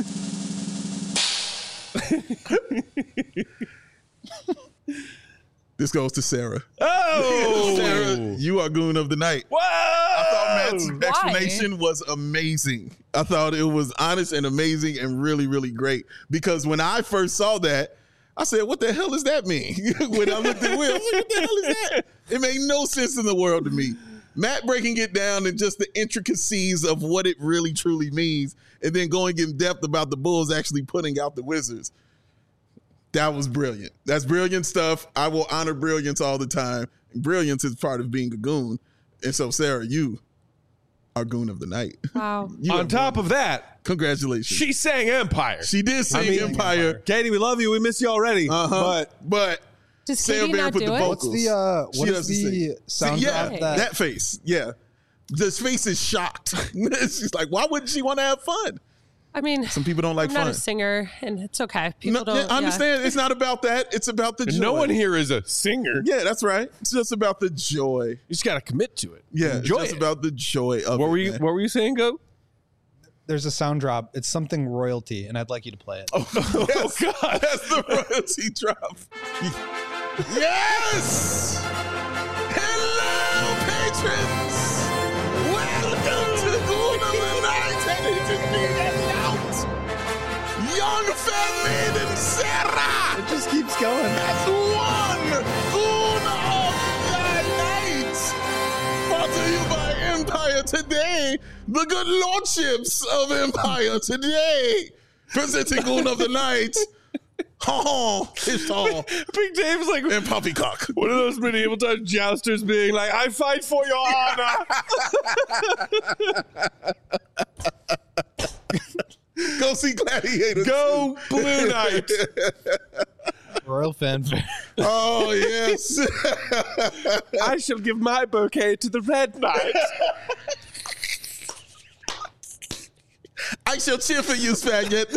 This goes to Sarah. Oh. Sarah, you are Goon of the Night. Whoa. I thought Matt's Why? explanation was amazing. I thought it was honest and amazing and really, really great. Because when I first saw that, I said, what the hell does that mean? When I looked at Will, I was like, what the hell is that? It made no sense in the world to me. Matt breaking it down and just the intricacies of what it really, truly means, and then going in depth about the Bulls actually putting out the Wizards. That was brilliant. That's brilliant stuff. I will honor brilliance all the time. Brilliance is part of being a goon. And so, Sarah, you are Goon of the Night. Wow. You On are top Goon. of that, Congratulations. she sang Empire. She did sing I mean, Empire. Katie, we love you. We miss you already. Uh-huh. But But Does Sarah Katie Bear not put do the it? vocals. What's the uh, She what is doesn't the sing. sound See, yeah, drop that, that, face. Yeah. This face is shocked. She's like, why wouldn't she want to have fun? I mean, Some people don't like I'm not fun. a singer, and it's okay. People No, don't. yeah, I understand. Yeah. It's not about that. It's about the joy. no one here is a singer. Yeah, that's right. It's just about the joy. You just got to commit to it. Yeah, Enjoy it's just it. about the joy of What it. were you? man. What were you saying, Go? there's a sound drop. It's something royalty, and I'd like you to play it. Oh, yes. God, that's the royalty drop. Yes! Hello, patrons! Welcome to Goon of the Night, and it just being announced. Young fan maiden Sarah It just keeps going. has won Goon of the Night. Brought to you by Empire Today, the good lordships of Empire Today. Presenting Goon of the Night. Oh, it's all. Big Dave's like And Poppycock. one of those medieval times jousters being like, "I fight for your honor." Go see Gladiator. Go Blue Knight. Royal fanfare. Oh, yes. I shall give my bouquet to the Red Knight. I shall cheer for you, Spaghetti.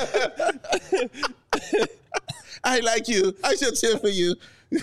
I like you. I shall cheer for you.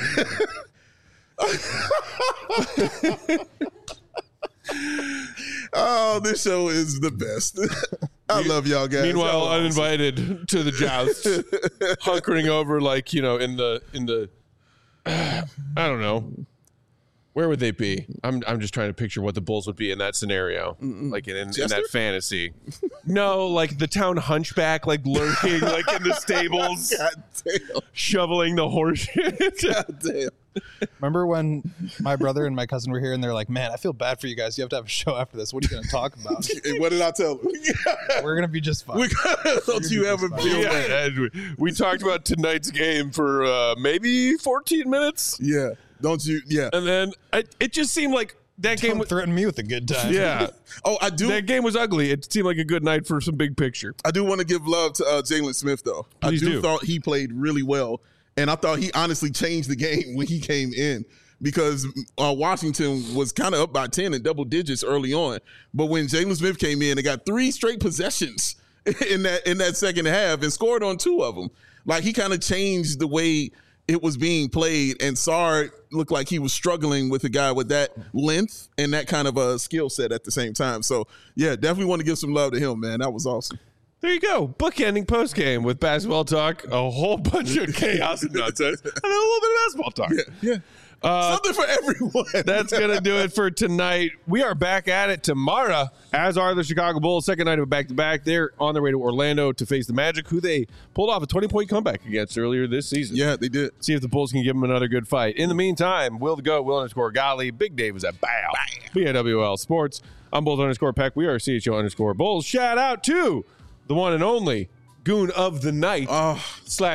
Oh, this show is the best. I love y'all guys. Meanwhile, Y'all are awesome. uninvited to the joust, hunkering over like, you know, in the in the I don't know. Where would they be? I'm I'm just trying to picture what the Bulls would be in that scenario, like in, in, in Chester? that fantasy. No, like the town hunchback, like lurking, like in the stables, God damn. shoveling the horse shit. God damn. Remember when my brother and my cousin were here, and they're like, "Man, I feel bad for you guys. You have to have a show after this. What are you going to talk about? Hey, what did I tell them? We're going to be just fine." We gotta, don't you ever feel Yeah, bad. and we, we talked about tonight's game for uh, maybe fourteen minutes, Yeah. Don't you? Yeah. and then I, it just seemed like that game Don't was. threaten me with a good time. Yeah, Oh, I do. that game was ugly. It seemed like a good night for some big picture. I do want to give love to uh, Jalen Smith, though. Please I do, do. thought he played really well, and I thought he honestly changed the game when he came in because uh, Washington was kind of up by ten in double digits early on, but when Jalen Smith came in, they got three straight possessions in that in that second half and scored on two of them. Like he kind of changed the way it was being played, and Sarr looked like he was struggling with a guy with that length and that kind of a skill set at the same time. So yeah, definitely want to give some love to him, man. That was awesome. There you go. Bookending post game with basketball talk, a whole bunch of chaos and nonsense, and then a little bit of basketball talk. Yeah. Uh, Something for everyone. That's going to do it for tonight. We are back at it tomorrow, as are the Chicago Bulls. Second night of a back-to-back. They're on their way to Orlando to face the Magic, who they pulled off a twenty-point comeback against earlier this season. Yeah, they did. See if the Bulls can give them another good fight. In the meantime, Will the Goat, Will underscore Golly, Big Dave is at Bow. B A W L Sports. I'm Bulls underscore Peck. We are C H O underscore Bulls. Shout out to the one and only Goon of the Night Oh, slash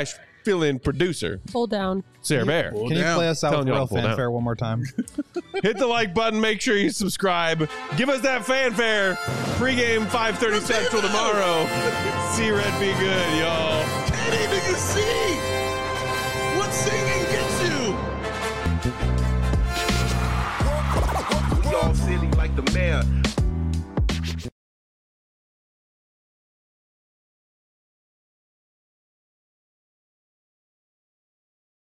fill-in producer, Pull down. Sarah Bear. Pull Can you down. play us out Telling with y'all real to pull down. fanfare one more time? Hit the like button. Make sure you subscribe. Give us that fanfare. Pre-game five thirty Central tomorrow. See Red be good, y'all. Can't even see. What scene